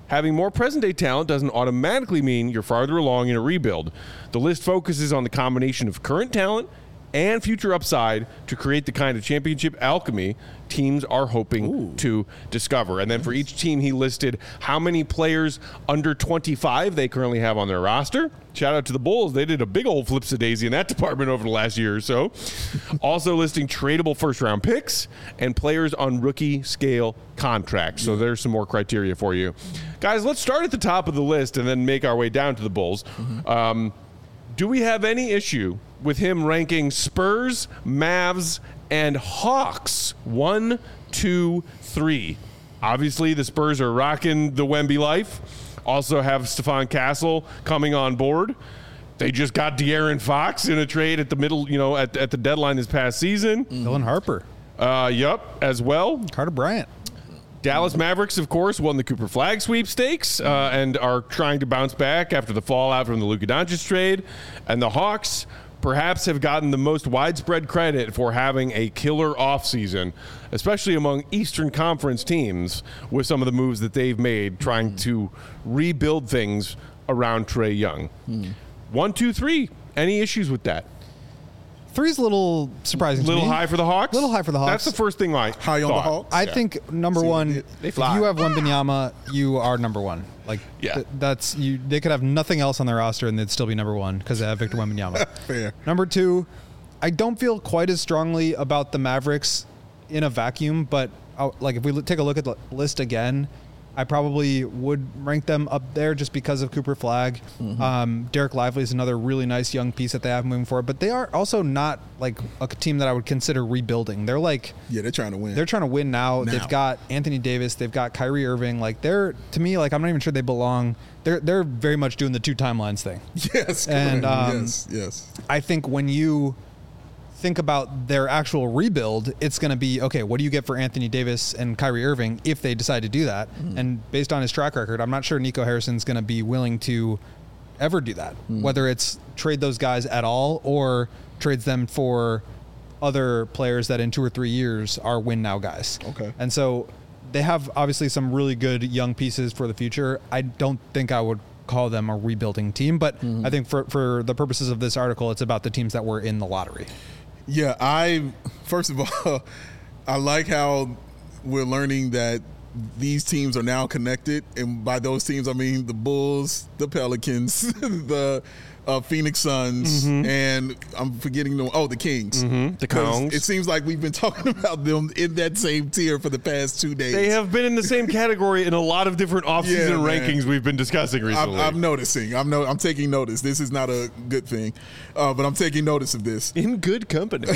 having more present-day talent doesn't automatically mean you're farther along in a rebuild. The list focuses on the combination of current talent and future upside to create the kind of championship alchemy teams are hoping Ooh. to discover. And then for each team, he listed how many players under twenty-five they currently have on their roster. Shout out to the Bulls. They did a big old flipsy-daisy in that department over the last year or so. Also listing tradable first-round picks and players on rookie-scale contracts. So there's some more criteria for you. Guys, let's start at the top of the list and then make our way down to the Bulls. Mm-hmm. Um, do we have any issue with him ranking Spurs, Mavs, and Hawks one, two, three? Obviously, the Spurs are rocking the Wemby life. Also have Stephon Castle coming on board. They just got De'Aaron Fox in a trade at the middle, you know, at, at the deadline this past season. Dylan Harper. Uh, yep, as well. Carter Bryant. Dallas Mavericks, of course, won the Cooper Flag sweepstakes uh, and are trying to bounce back after the fallout from the Luka Doncic trade. And the Hawks perhaps have gotten the most widespread credit for having a killer offseason, especially among Eastern Conference teams, with some of the moves that they've made trying mm. to rebuild things around Trae Young. Mm. One, two, three. Any issues with that? Three's a little surprising A little to me. high for the Hawks? little high for the Hawks. That's the first thing I High on thought. the Hawks? I Yeah. think, number See, one, they- they if fly. you have Wembanyama, you are number one. Like, Yeah. th- that's you. They could have nothing else on their roster and they'd still be number one because they have Victor Wembanyama. Fair. Number two, I don't feel quite as strongly about the Mavericks in a vacuum, but uh, like if we l- take a look at the list again, I probably would rank them up there just because of Cooper Flag. Mm-hmm. Um, Derek Lively is another really nice young piece that they have moving forward, but they are also not like a team that I would consider rebuilding. They're like, Yeah, they're trying to win. they're trying to win now. Now. They've got Anthony Davis. They've got Kyrie Irving. Like they're, to me, like I'm not even sure they belong. They're they're very much doing the two timelines thing. yes, And, correct. um, yes, yes. I think when you think about their actual rebuild, it's going to be, okay, what do you get for Anthony Davis and Kyrie Irving if they decide to do that? Mm. And based on his track record, I'm not sure Nico Harrison's going to be willing to ever do that, mm. whether it's trade those guys at all or trades them for other players that in two or three years are win now guys. Okay. And so they have obviously some really good young pieces for the future. I don't think I would call them a rebuilding team, but mm-hmm. I think for, for the purposes of this article, it's about the teams that were in the lottery. Yeah, I first of all, I like how we're learning that these teams are now connected, and by those teams I mean the Bulls, the Pelicans, the uh, Phoenix Suns, mm-hmm. and I'm forgetting the oh the Kings. Mm-hmm. The Kongs. It seems like we've been talking about them in that same tier for the past two days. They have been in the same category in a lot of different offseason Yeah, rankings we've been discussing recently. I'm, I'm noticing. I'm no. I'm taking notice. This is not a good thing, uh, but I'm taking notice of this. In good company.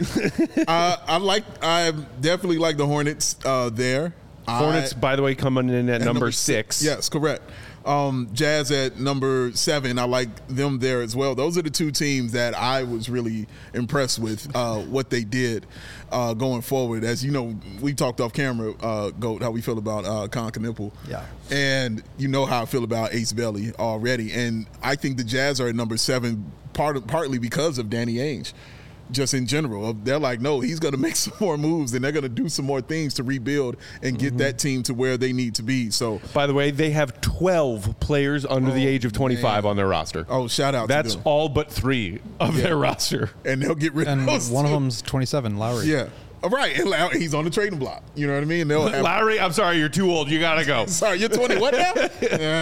uh, I like. I definitely like the Hornets uh, there. Hornets, I, by the way, coming in at, at number, number six. Yes, correct. Um, Jazz at number seven. I like them there as well. Those are the two teams that I was really impressed with uh, what they did uh, going forward. As you know, we talked off camera, uh, Goat, how we feel about uh, Con Knipple. Yeah. And you know how I feel about Ace Belly already. And I think the Jazz are at number seven part of, partly because of Danny Ainge. Just in general, they're like, no, he's going to make some more moves and they're going to do some more things to rebuild and get mm-hmm. that team to where they need to be. So, by the way, they have twelve players under oh, the age of twenty-five man. on their roster. Oh, shout out That's to them. all but three of yeah. their roster. And they'll get rid and of those. One two. of them's twenty-seven, Lowry. Yeah. All right. And Lowry, he's on the trading block. You know what I mean? They'll have, Lowry, I'm sorry, you're too old. You got to go. Sorry, you're twenty. What now? uh,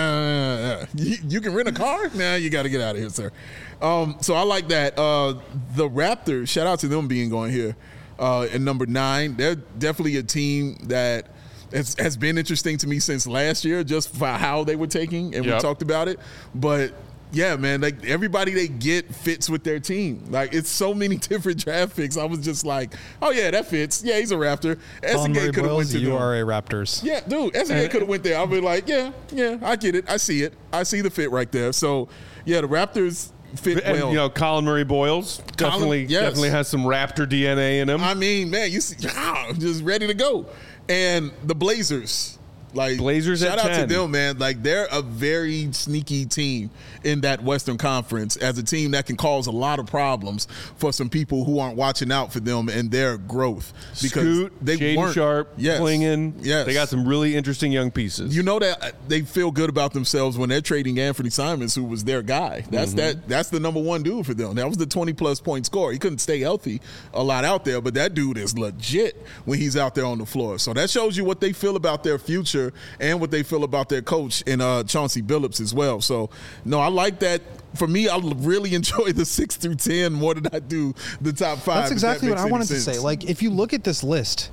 uh, you, you can rent a car? Nah, you got to get out of here, sir. Um, so I like that. Uh, the Raptors, shout out to them being going here uh, at number nine. They're definitely a team that has, has been interesting to me since last year, just for how they were taking, and yep. we talked about it. But yeah, man, like everybody they get fits with their team. Like it's so many different draft picks. I was just like, oh yeah, that fits. Yeah, he's a Raptor. S N G could have went to You them. are a Raptors. Yeah, dude, S N G could have went there. I'll be like, yeah, yeah, I get it. I see it. I see the fit right there. So yeah, the Raptors fit and, well. You know, Colin Murray Boyles definitely yes. definitely has some Raptor D N A in him. I mean, man, you see, ah, just ready to go. And the Blazers, Like Blazers shout at out ten. to them, man. Like they're a very sneaky team in that Western Conference, as a team that can cause a lot of problems for some people who aren't watching out for them and their growth. Because Scoot, they Shaden weren't Sharp, yes, Klingon. Yes. They got some really interesting young pieces. You know that they feel good about themselves when they're trading Anthony Simons, who was their guy. That's Mm-hmm. that. That's the number one dude for them. That was the twenty plus point scorer. He couldn't stay healthy a lot out there, but that dude is legit when he's out there on the floor. So that shows you what they feel about their future and what they feel about their coach in uh, Chauncey Billups as well. So no, I like that. For me, I really enjoy the six through ten more than I do the top five. That's exactly what I wanted to say. Like, if you look at this list,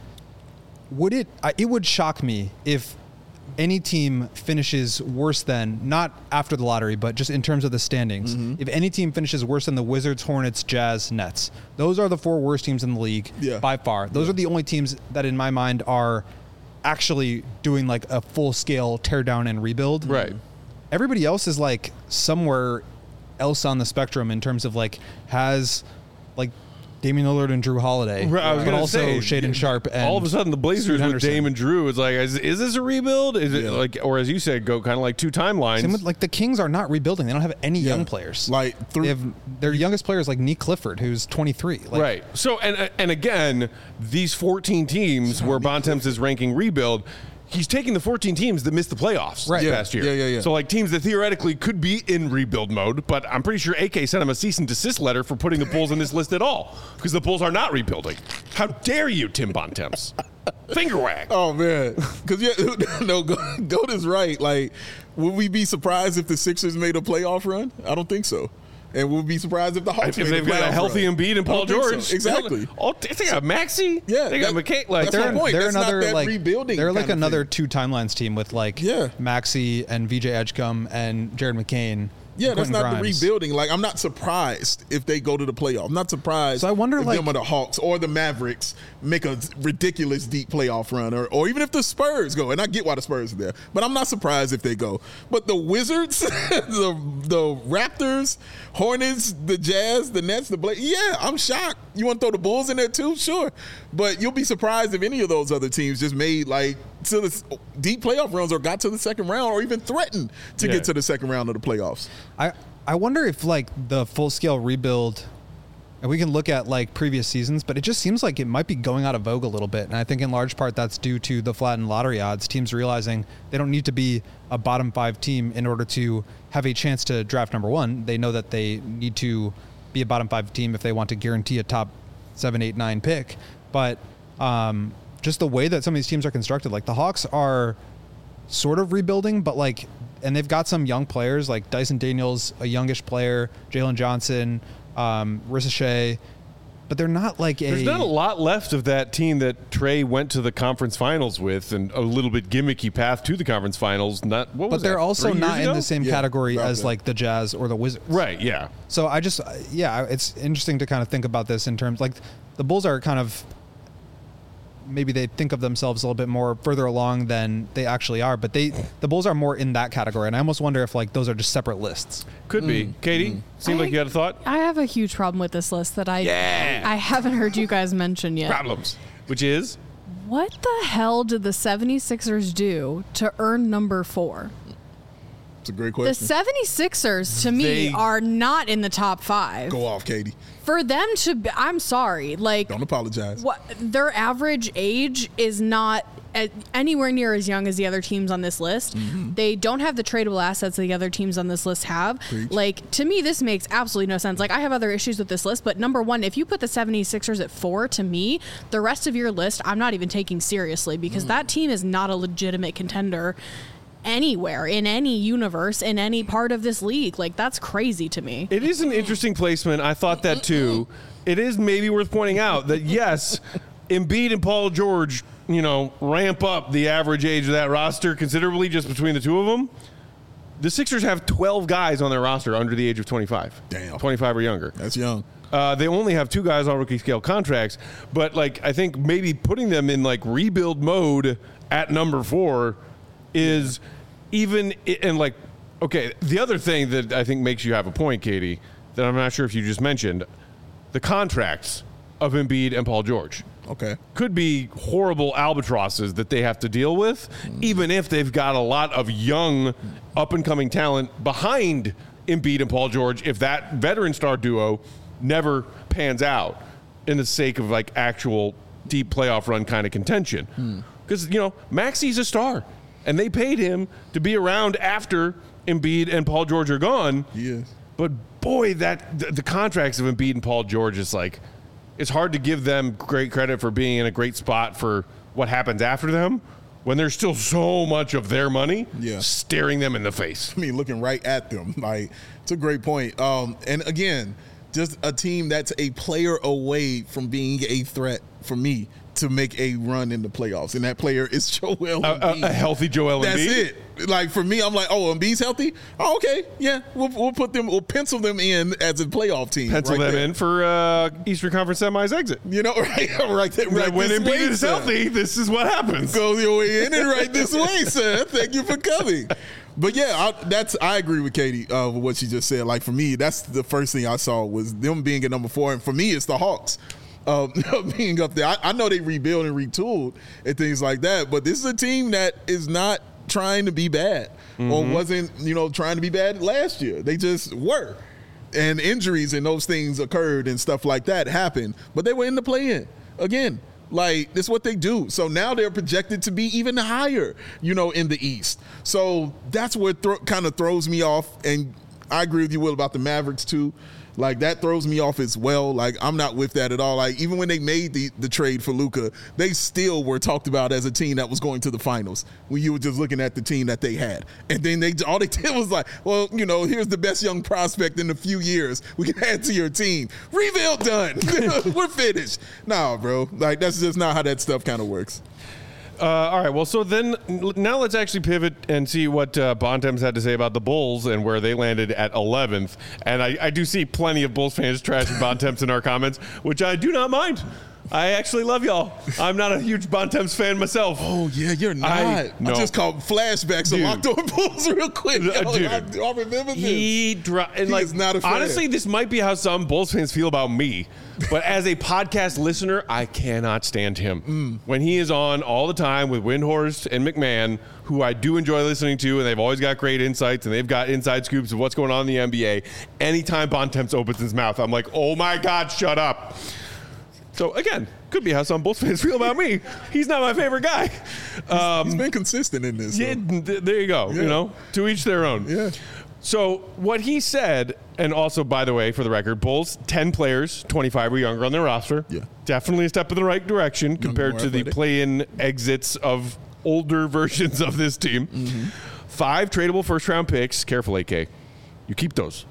would it? I- It would shock me if any team finishes worse than, not after the lottery, but just in terms of the standings. Mm-hmm. If any team finishes worse than the Wizards, Hornets, Jazz, Nets, those are the four worst teams in the league Yeah. by far. Those are the only teams that, in my mind, are actually doing like a full scale tear down and rebuild. Right. Everybody else is like somewhere else on the spectrum in terms of like has like Damian Lillard and Drew Holiday, Right, I was but gonna also say, Shaden Sharp. And all of a sudden, the Blazers Scoot with Henderson. Dame and Drew, it's like, is, is this a rebuild? Is it Yeah. like, or as you said, go kind of like two timelines? Same with, like the Kings are not rebuilding. They don't have any Yeah. young players. Like they through, have their youngest player is like Nick Clifford, who's twenty-three. Like, Right. So, and and again, these fourteen teams where Bontemps is ranking rebuild, he's taking the fourteen teams that missed the playoffs Right. Yeah. last year. Yeah, yeah, yeah. So, like teams that theoretically could be in rebuild mode, but I'm pretty sure A K sent him a cease and desist letter for putting the Bulls in this list at all because the Bulls are not rebuilding. How dare you, Tim Bontemps? Finger wag. Oh man, because yeah, no, Goat is right. Like, would we be surprised if the Sixers made a playoff run? I don't think so. And we'll be surprised if the Hawks If made they've a got a playoff healthy run. Embiid and I Paul don't think so. George, Exactly. Oh, they got Maxey. Yeah, they got that- McKay. Like that's my They're, point. they're That's not another that like rebuilding they're like kind of another thing. two timelines team with like Yeah. Maxey and V J Edgecombe and Jared McCain. Yeah, and that's Quentin not Grimes. the rebuilding. Like, I'm not surprised if they go to the playoff. I'm not surprised So I wonder, if like- them or the Hawks or the Mavericks make a ridiculous deep playoff run, or, or even if the Spurs go. And I get why the Spurs are there, but I'm not surprised if they go. But the Wizards, the the Raptors, Hornets, the Jazz, the Nets, the Blazers, yeah, I'm shocked. You want to throw the Bulls in there too? Sure. But you'll be surprised if any of those other teams just made like to the deep playoff runs or got to the second round or even threatened to Yeah. get to the second round of the playoffs. I I wonder if like the full scale rebuild, and we can look at like previous seasons, but it just seems like it might be going out of vogue a little bit. And I think in large part that's due to the flattened lottery odds. Teams realizing they don't need to be a bottom five team in order to have a chance to draft number one. They know that they need to be a bottom five team if they want to guarantee a top seven, eight, nine pick. But um, just the way that some of these teams are constructed, like the Hawks are sort of rebuilding, but like, and they've got some young players like Dyson Daniels, a youngish player, Jalen Johnson, um, Risa Shea, but they're not like a. There's not a lot left of that team that Trey went to the conference finals with, and a little bit gimmicky path to the conference finals. Not what but was they're that, also three not years in ago? the same Yeah, category about as that. like the Jazz or the Wizards. Right? Yeah. So I just, yeah, it's interesting to kind of think about this in terms like the Bulls are kind of, maybe they think of themselves a little bit more further along than they actually are, but they, the Bulls are more in that category. And I almost wonder if like those are just separate lists. Could be. Katie, seemed like you had a thought. I have a huge problem with this list that I Yeah. I haven't heard you guys mention yet. Problems, which is What the hell did the 76ers do to earn number four? It's a great The question. 76ers, to me, They- are not in the top five. Go off, Katie. For them to be, I'm sorry, like, Don't apologize. what their average age is not at anywhere near as young as the other teams on this list. Mm-hmm. They don't have the tradable assets that the other teams on this list have. Preach. Like, to me, this makes absolutely no sense. Like, I have other issues with this list, but number one, if you put the 76ers at four, to me, the rest of your list, I'm not even taking seriously because Mm. that team is not a legitimate contender anywhere, in any universe, in any part of this league. Like, that's crazy to me. it is an interesting placement. I thought that too. It is maybe worth pointing out that yes, Embiid and Paul George, you know, ramp up the average age of that roster considerably just between the two of them. The Sixers have twelve guys on their roster under the age of twenty-five. Damn. twenty-five or younger. That's young. Uh, they only have two guys on rookie scale contracts, but like I think maybe putting them in like rebuild mode at number four is even and like okay. The other thing that I think makes you have a point, Katie, that I'm not sure if you just mentioned, the contracts of Embiid and Paul George. Okay. could be horrible albatrosses that they have to deal with, mm. even if they've got a lot of young, up-and-coming talent behind Embiid and Paul George, if that veteran star duo never pans out in the sake of, like, actual deep playoff run kind of contention. Because, mm. you know, Maxi's a star, and they paid him to be around after Embiid and Paul George are gone. Yes. But, boy, that the, the contracts of Embiid and Paul George is, like, it's hard to give them great credit for being in a great spot for what happens after them when there's still so much of their money yeah. staring them in the face. I mean, looking right at them. Like, it's a great point. Um, and, again, just a team that's a player away from being a threat for me to make a run in the playoffs. And that player is Joel Embiid. A, a, a healthy Joel That's Embiid? That's it. Like, for me, I'm like, oh, Embiid's healthy? Oh, okay. Yeah, we'll, we'll put them, we'll pencil them in as a playoff team. Pencil right them there. in for uh, Eastern Conference semis exit. You know, right, right, there, right when this Embiid way, is sir. healthy, this is what happens. Go your way in and right this way, sir. Thank you for coming. But yeah, I, that's I agree with Katie uh, with what she just said. Like, for me, that's the first thing I saw was them being at number four, and for me, it's the Hawks uh, being up there. I, I know they rebuild and retooled and things like that, but this is a team that is not trying to be bad mm-hmm. or wasn't, you know, trying to be bad last year. They just were, and injuries and those things occurred and stuff like that happened, but they were in the play-in again. Like, this is what they do. So now they're projected to be even higher, you know, in the East. So that's what th- kind of throws me off. And I agree with you, Will, about the Mavericks, too. Like, that throws me off as well. Like, I'm not with that at all. Like, even when they made the, the trade for Luka, they still were talked about as a team that was going to the finals when you were just looking at the team that they had. And then they all they did was like, well, you know, here's the best young prospect in a few years we can add to your team. Rebuild done. We're finished. Nah, bro. Like, that's just not how that stuff kind of works. Uh, all right, well, so then now let's actually pivot and see what uh, Bontemps had to say about the Bulls and where they landed at eleventh. And I, I do see plenty of Bulls fans trashing Bontemps in our comments, which I do not mind. I actually love y'all. I'm not a huge Bontemps fan myself. Oh, yeah, you're not. I, no. I just called flashbacks of Locked On Bulls real quick. Uh, Yo, dude, I, I remember this. He, dri- and he like, is not a fan. Honestly, this might be how some Bulls fans feel about me. But as a podcast listener, I cannot stand him. Mm. When he is on all the time with Windhorst and McMahon, who I do enjoy listening to, and they've always got great insights, and they've got inside scoops of what's going on in the N B A, anytime Bontemps opens his mouth, I'm like, oh my God, shut up. So, again, could be how some Bulls fans feel about me. He's not my favorite guy. Um, he's been consistent in this. Yeah, th- there you go. Yeah. You know, to each their own. Yeah. So what he said, and also, by the way, for the record, Bulls, ten players, twenty-five or younger on their roster. Yeah. Definitely a step in the right direction Younger, compared to the athletic. play-in exits of older versions of this team. Mm-hmm. Five tradable first-round picks. Careful, A K. You keep those.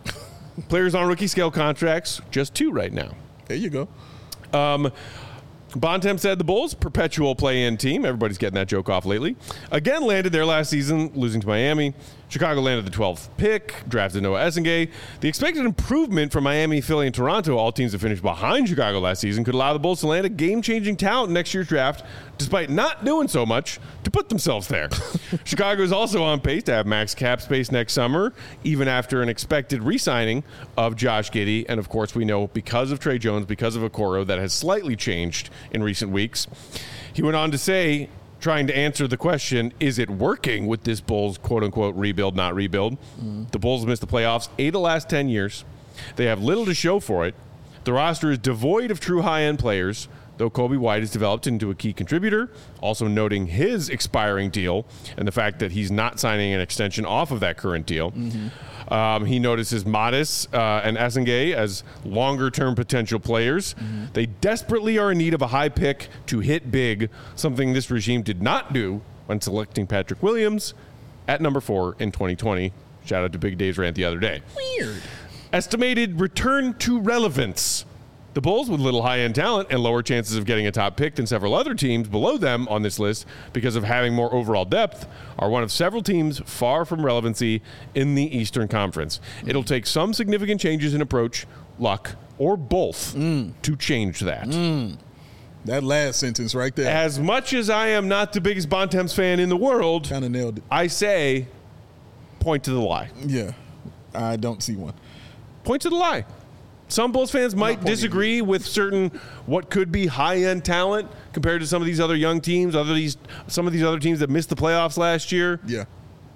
Players on rookie scale contracts, just two right now. There you go. Um, Bontemps said the Bulls, perpetual play-in team. Everybody's getting that joke off lately. Again, landed there last season, losing to Miami. Chicago landed the twelfth pick, drafted Noah Essengay. The expected improvement from Miami, Philly, and Toronto, all teams that finished behind Chicago last season, could allow the Bulls to land a game-changing talent in next year's draft, despite not doing so much to put themselves there. Chicago is also on pace to have max cap space next summer, even after an expected re-signing of Josh Giddey. And, of course, we know because of Trey Jones, because of Okoro, that has slightly changed in recent weeks. He went on to say, trying to answer the question, is it working with this Bulls quote-unquote rebuild, not rebuild? Mm. The Bulls have missed the playoffs eight of the last ten years. They have little to show for it. The roster is devoid of true high-end players, though Kobe White has developed into a key contributor, also noting his expiring deal and the fact that he's not signing an extension off of that current deal. Mm-hmm. Um, he notices Modis uh, and Essengay as longer-term potential players. Mm-hmm. They desperately are in need of a high pick to hit big, something this regime did not do when selecting Patrick Williams at number four in twenty twenty. Shout out to Big Dave's rant the other day. Weird. Estimated return to relevance. The Bulls, with little high-end talent and lower chances of getting a top pick than several other teams below them on this list because of having more overall depth, are one of several teams far from relevancy in the Eastern Conference. It'll take some significant changes in approach, luck, or both mm. to change that. Mm. That last sentence right there. As much as I am not the biggest Bontemps fan in the world, kind of nailed it. I say, point to the lie. Yeah, I don't see one. Point to the lie. some Bulls fans might disagree with certain what could be high-end talent compared to some of these other young teams, other these some of these other teams that missed the playoffs last year. Yeah.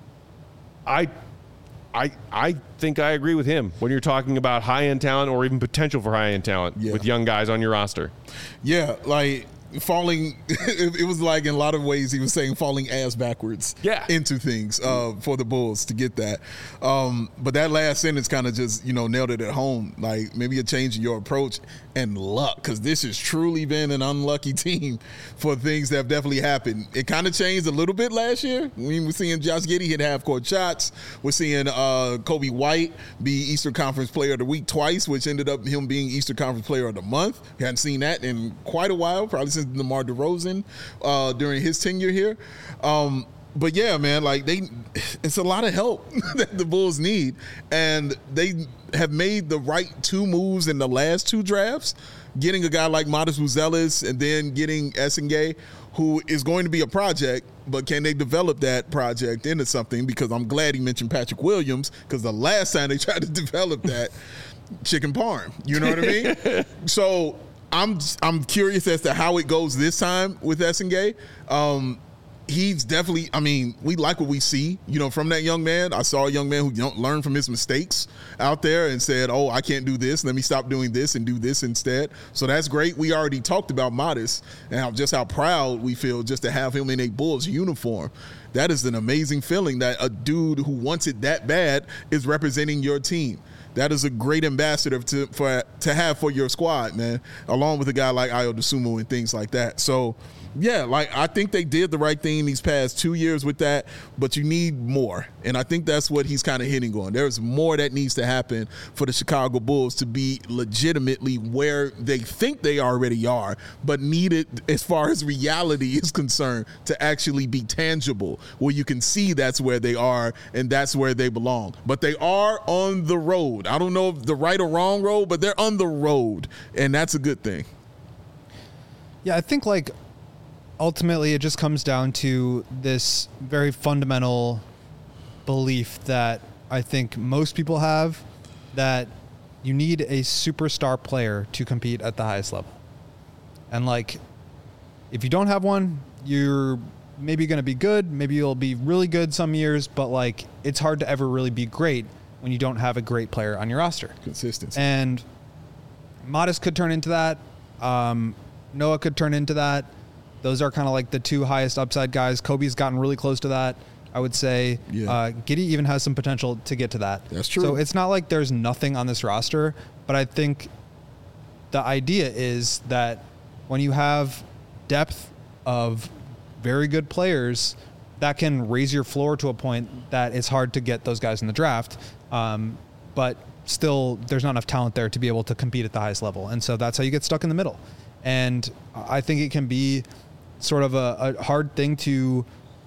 I I I think I agree with him when you're talking about high-end talent or even potential for high-end talent Yeah. with young guys on your roster. Yeah, like falling it, it was like in a lot of ways he was saying falling ass backwards Yeah. into things uh, for the Bulls to get that. Um, but that last sentence kind of just, you know, nailed it at home. Like maybe a change in your approach and luck, because this has truly been an unlucky team for things that have definitely happened. It kind of changed a little bit last year. We were seeing Josh Giddey hit half-court shots. We're seeing uh, Kobe White be Eastern Conference Player of the Week twice, which ended up him being Eastern Conference Player of the Month. We hadn't seen that in quite a while, probably since DeMar DeRozan uh, during his tenure here. Um, but yeah, man, like they, it's a lot of help that the Bulls need, and they have made the right two moves in the last two drafts, getting a guy like Modest Buzelis and then getting Essengay, who is going to be a project, but can they develop that project into something? Because I'm glad he mentioned Patrick Williams, because the last time they tried to develop that, chicken parm, you know what I mean? So I'm I'm curious as to how it goes this time with Essengay. Um, he's definitely, I mean, we like what we see, you know, from that young man. I saw a young man who don't learn from his mistakes out there and said, oh, I can't do this. Let me stop doing this and do this instead. So that's great. We already talked about Modest and how, just how proud we feel just to have him in a Bulls uniform. That is an amazing feeling that a dude who wants it that bad is representing your team. That is a great ambassador to for to have for your squad, man, along with a guy like Ayo Dosunmu and things like that. So, yeah, like I think they did the right thing these past two years with that, but you need more. And I think that's what he's kind of hitting on. There's more that needs to happen for the Chicago Bulls to be legitimately where they think they already are, but need it as far as reality is concerned to actually be tangible, where you can see that's where they are and that's where they belong. But they are on the road. I don't know if the right or wrong road, but they're on the road, and that's a good thing. Yeah, I think like ultimately it just comes down to this very fundamental belief that I think most people have, that you need a superstar player to compete at the highest level. And like, if you don't have one, you're maybe going to be good. Maybe you'll be really good some years, but like it's hard to ever really be great when you don't have a great player on your roster. Consistency. And Modest could turn into that. Um, Noah could turn into that. Those are kind of like the two highest upside guys. Kobe's gotten really close to that, I would say. Yeah. Uh, Giddey even has some potential to get to that. That's true. So it's not like there's nothing on this roster, but I think the idea is that when you have depth of very good players, that can raise your floor to a point that it's hard to get those guys in the draft. Um, but still, there's not enough talent there to be able to compete at the highest level. And so that's how you get stuck in the middle. And I think it can be sort of a, a hard thing to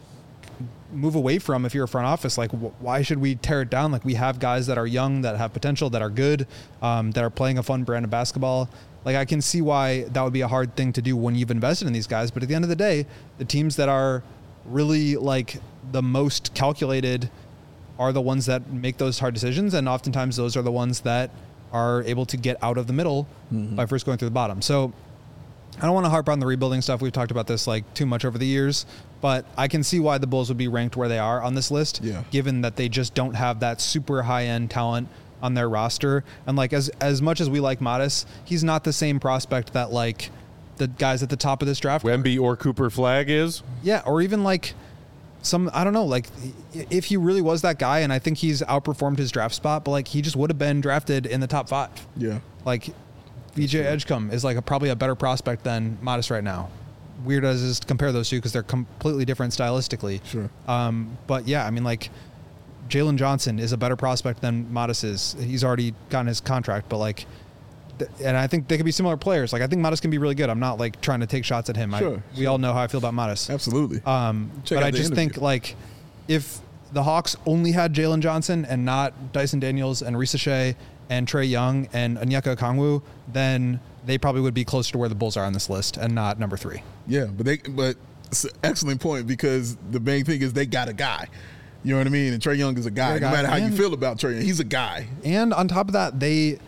move away from if you're a front office. Like, wh- why should we tear it down? Like, we have guys that are young, that have potential, that are good, um, that are playing a fun brand of basketball. Like, I can see why that would be a hard thing to do when you've invested in these guys. But at the end of the day, the teams that are really like the most calculated are the ones that make those hard decisions. And oftentimes those are the ones that are able to get out of the middle mm-hmm. by first going through the bottom. So I don't want to harp on the rebuilding stuff. We've talked about this like too much over the years, but I can see why the Bulls would be ranked where they are on this list, yeah. given that they just don't have that super high end talent on their roster. And like, as, as much as we like Modest, he's not the same prospect that like the guys at the top of this draft. Wemby or Cooper Flag is? Yeah. Or even like some, I don't know, like if he really was that guy, and I think he's outperformed his draft spot, but like he just would have been drafted in the top five. Yeah. Like V J Edgecombe is like a, probably a better prospect than Modest right now. Weird as it is to compare those two because they're completely different stylistically. Sure. Um, but yeah, I mean, like Jalen Johnson is a better prospect than Modest is. He's already gotten his contract, but like, th- and I think they could be similar players. Like I think Modest can be really good. I'm not like trying to take shots at him. Sure, I, we sure. all know how I feel about Modest. Absolutely. Um, Check but out I the just interview. think like if the Hawks only had Jalen Johnson and not Dyson Daniels and Risa Shea and Trae Young and Onyeka Okongwu, then they probably would be closer to where the Bulls are on this list and not number three. Yeah, but they but it's an excellent point because the main thing is they got a guy. You know what I mean? And Trae Young is a guy. They're a No guy. matter how you And- feel about Trae Young, he's a guy. And on top of that, they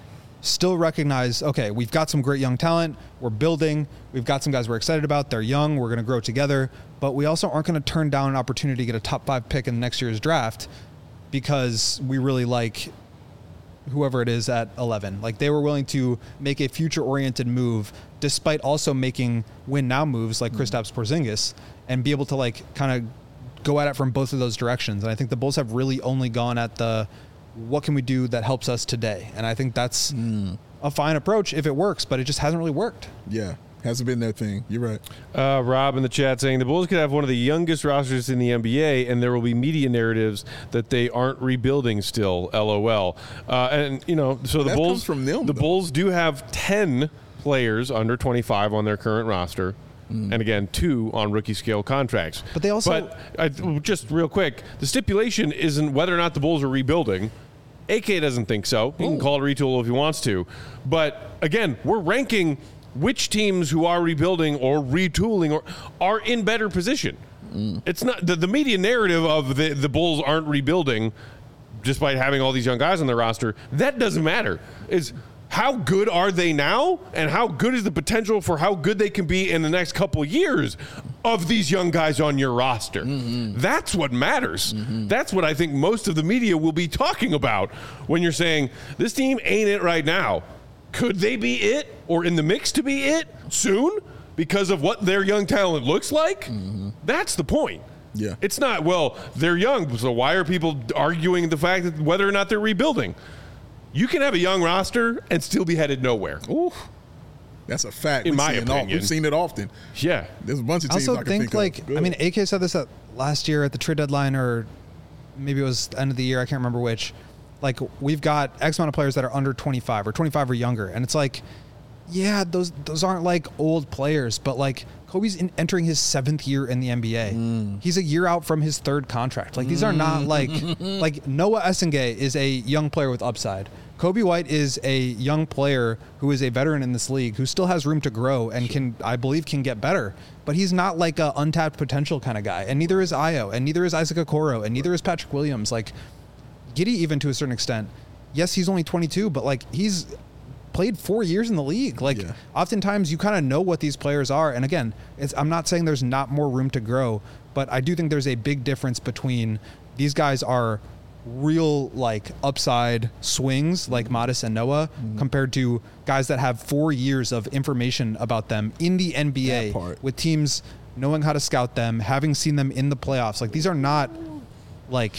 still recognize, okay, we've got some great young talent. We're building. We've got some guys we're excited about. They're young. We're going to grow together. But we also aren't going to turn down an opportunity to get a top five pick in next year's draft because we really like whoever it is at eleven. Like, they were willing to make a future-oriented move despite also making win-now moves like Kristaps Porzingis and be able to, like, kind of go at it from both of those directions. And I think the Bulls have really only gone at the what can we do that helps us today? And I think that's mm. a fine approach if it works, but it just hasn't really worked. Yeah. Hasn't been their thing. You're right. Uh, Rob in the chat saying the Bulls could have one of the youngest rosters in the N B A, and there will be media narratives that they aren't rebuilding still. LOL. Uh, and you know, so the that Bulls comes from them, the though. Bulls do have ten players under twenty-five on their current roster. Mm. And again, two on rookie scale contracts. But they also, but I, just real quick, the stipulation isn't whether or not the Bulls are rebuilding. A K doesn't think so. He can call it a retool if he wants to. But again, we're ranking which teams who are rebuilding or retooling or are in better position. Mm. It's not the, the media narrative of the, the Bulls aren't rebuilding despite having all these young guys on their roster. That doesn't matter. It's how good are they now and how good is the potential for how good they can be in the next couple of years of these young guys on your roster. Mm-hmm. That's what matters. Mm-hmm. That's what I think most of the media will be talking about when you're saying this team ain't it right now. Could they be it or in the mix to be it soon because of what their young talent looks like? Mm-hmm. That's the point. Yeah. It's not, well, they're young, so why are people arguing the fact that whether or not they're rebuilding? You can have a young roster and still be headed nowhere. Ooh, that's a fact. In We've my seen opinion. It We've seen it often. Yeah. There's a bunch of I teams also I can think, think like, of. I mean, A K said this at last year at the trade deadline, or maybe it was the end of the year. I can't remember which. Like, we've got X amount of players that are under twenty-five or twenty-five or younger. And it's like, yeah, those those aren't like old players, but like Kobe's in, entering his seventh year in the N B A. Mm. He's a year out from his third contract. Like, these are not like, like Noah Essengay is a young player with upside. Kobe White is a young player who is a veteran in this league who still has room to grow and can, I believe, can get better. But he's not like a untapped potential kind of guy. And neither is Ayo, and neither is Isaac Okoro, and neither is Patrick Williams. Like, Giddey, even to a certain extent, yes, he's only twenty-two, but like he's played four years in the league. Like, yeah. Oftentimes you kind of know what these players are. And again, it's, I'm not saying there's not more room to grow, but I do think there's a big difference between these guys are real like upside swings like Modest and Noah mm-hmm. compared to guys that have four years of information about them in the N B A with teams knowing how to scout them, having seen them in the playoffs. Like, these are not like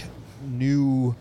new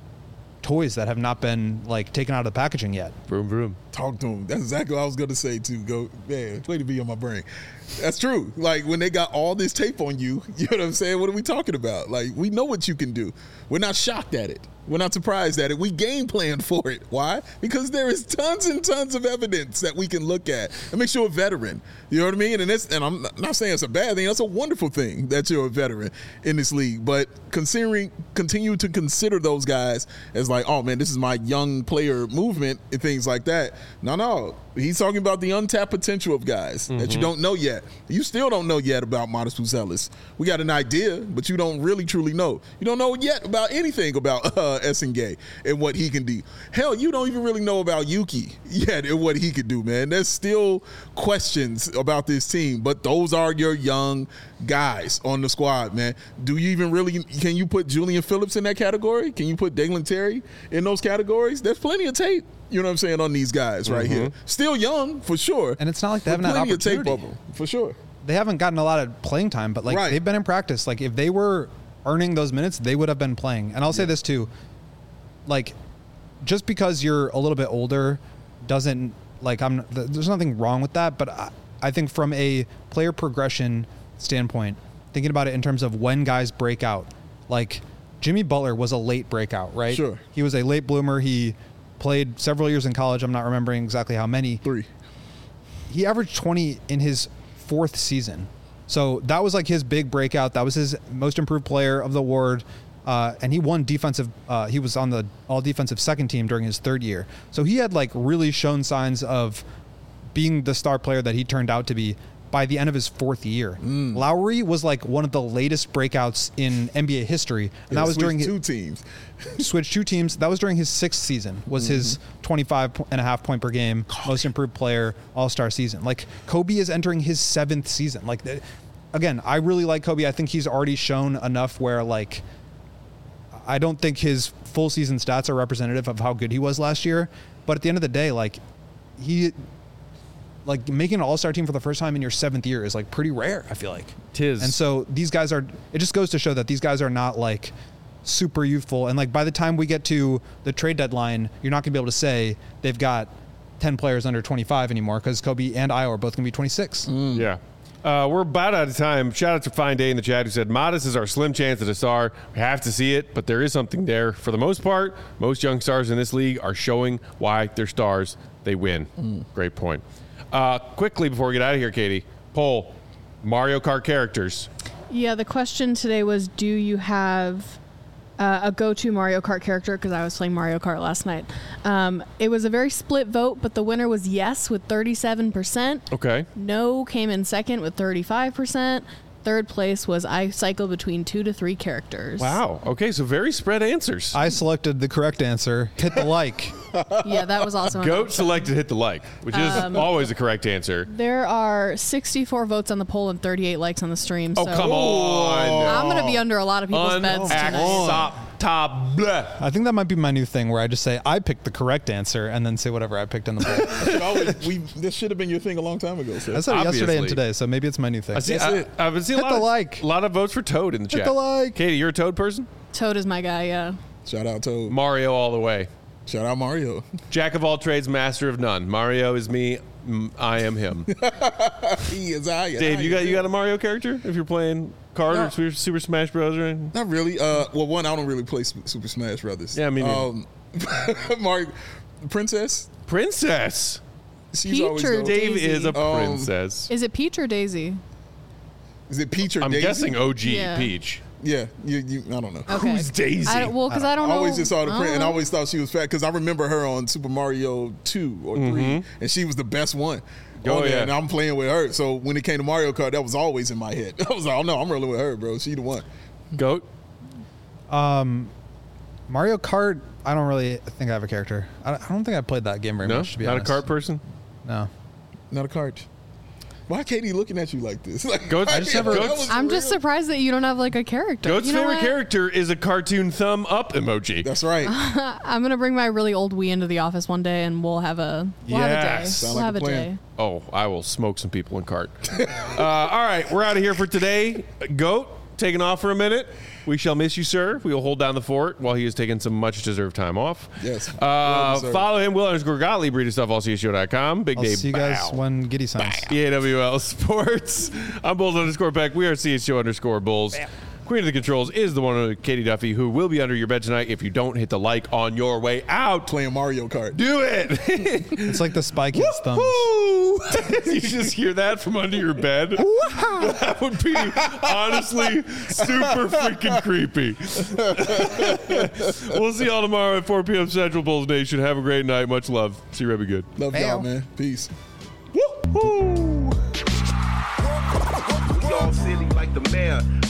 toys that have not been like taken out of the packaging yet. Vroom, vroom. Talk to him. That's exactly what I was going to say too. Go, man, way to be on my brain. That's true. Like, when they got all this tape on you, you know what I'm saying? What are we talking about? Like, we know what you can do. We're not shocked at it. We're not surprised at it. We game plan for it. Why? Because there is tons and tons of evidence that we can look at and make sure a veteran. You know what I mean? And it's, and I'm not saying it's a bad thing. That's a wonderful thing that you're a veteran in this league. But considering, continue to consider those guys as like, oh man, this is my young player movement and things like that. No, no. He's talking about the untapped potential of guys mm-hmm. that you don't know yet. You still don't know yet about Modest Buzelis. We got an idea, but you don't really truly know. You don't know yet about anything about uh, Essengay and what he can do. Hell, you don't even really know about Yuki yet and what he could do, man. There's still questions about this team, but those are your young guys on the squad, man. Do you even really, can you put Julian Phillips in that category? Can you put Dalen Terry in those categories? There's plenty of tape. You know what I'm saying, on these guys right mm-hmm. here. Still young, for sure. And it's not like they haven't had opportunity. Plenty of tape of them, for sure. They haven't gotten a lot of playing time, but like right. they've been in practice. Like, if they were earning those minutes, they would have been playing. And I'll say yeah. this too, like, just because you're a little bit older doesn't, like, I'm. There's nothing wrong with that, but I, I think from a player progression standpoint, thinking about it in terms of when guys break out, like Jimmy Butler was a late breakout, right? Sure. He was a late bloomer. He played several years in college. I'm not remembering exactly how many. Three. He averaged twenty in his fourth season. So that was like his big breakout. That was his most improved player of the award. Uh, and he won defensive. Uh, he was on the all defensive second team during his third year. So he had like really shown signs of being the star player that he turned out to be by the end of his fourth year. Mm. Lowry was like one of the latest breakouts in N B A history, and yeah, that was during two his, teams. switched two teams. That was during his sixth season. Was mm-hmm. his twenty-five and a half point per game, Kobe. most improved player, all-star season. Like Kobe is entering his seventh season. Like again, I really like Kobe. I think he's already shown enough where like I don't think his full season stats are representative of how good he was last year. But at the end of the day, like he. Like making an all-star team for the first time in your seventh year is like pretty rare, I feel like. Tis. And so these guys are, it just goes to show that these guys are not like super youthful. And like by the time we get to the trade deadline, you're not gonna be able to say they've got ten players under twenty-five anymore because Kobe and Io are both gonna be twenty-six. Mm. Yeah. Uh, we're about out of time. Shout out to Fine Day in the chat who said, Modest is our slim chance at a star. We have to see it, but there is something there. For the most part, most young stars in this league are showing why they're stars. They win. Mm. Great point. Uh, quickly before we get out of here, Katie, poll, Mario Kart characters. Yeah, the question today was, do you have uh, a go-to Mario Kart character? Because I was playing Mario Kart last night. Um, it was a very split vote, but the winner was yes with thirty-seven percent. Okay. No came in second with thirty-five percent. Third place was I cycle between two to three characters. Wow. Okay, so very spread answers. I selected the correct answer. Hit the like. Yeah, that was also Goat selected hit the like, which is um, always the correct answer. There are sixty-four votes on the poll and thirty-eight likes on the stream. Oh, so come on. I'm going to be under a lot of people's beds tonight. I think that might be my new thing where I just say I picked the correct answer and then say whatever I picked in the poll. always, we, this should have been your thing a long time ago. So. I said it yesterday and today, so maybe it's my new thing. I see, I, I've been seeing Hit a lot, the of, like. a lot of votes for Toad in the Hit chat. the like. Katie, you're a Toad person? Toad is my guy, yeah. Shout out Toad. Mario all the way. Shout out Mario. Jack of all trades, master of none. Mario is me. I am him. He is I. Dave, I you got you got a Mario character if you're playing card no. or Super, Super Smash Bros. Or anything? Not really. Uh, well, one, I don't really play Super Smash Brothers. Yeah, me neither. Um, Mario, Princess. Princess. She's Peach always or dope. Dave Daisy? is a Um, princess. Is it Peach or Daisy? Is it Peach or I'm Daisy? guessing O G Yeah. Peach. Yeah, you, you, I don't know. Okay. Who's Daisy? I, well, because I, I don't I know. always just saw the print, and I Oh. always thought she was fat because I remember her on Super Mario two or three, Mhm. and she was the best one. Oh, on there, yeah. and I'm playing with her. So when it came to Mario Kart, that was always in my head. I was like, oh no, I'm rolling with her, bro. She the one. Goat. Um, Mario Kart, I don't really think I have a character. I I don't think I played that game very No, much, to be not honest. a kart person. No. Not a cart. Why Katie looking at you like this? Like, Goat's- I just never- that Goat's- was I'm real. just surprised that you don't have like a character. Goat's you know favorite what? character is a cartoon thumb up emoji. That's right. I'm gonna bring my really old Wii into the office one day, and we'll have a we'll have a day. Yes. Sound We'll like have a a plan. day. Oh, I will smoke some people in cart. uh, all right, we're out of here for today. Goat, taking off for a minute. We shall miss you, sir. We will hold down the fort while he is taking some much-deserved time off. Yes. Uh, Well-deserved. follow him, Will underscore Gottlieb. Read his stuff, all C S show dot com. Big I'll day. see you guys bow. when Giddy signs. E A W L Sports. I'm Bulls underscore Peck. We are C S Show underscore Bulls. Queen of the Controls is the one with Katie Duffy, who will be under your bed tonight if you don't hit the like on your way out. Playing Mario Kart. Do it. It's like the Spy Kids thumbs. Woo! You just hear that from under your bed? That would be honestly super freaking creepy. We'll see y'all tomorrow at four p.m. Central. Bulls Nation. Have a great night. Much love. See you, Rebby Good. Love y'all, man. Peace. Woo! We all silly like the mayor.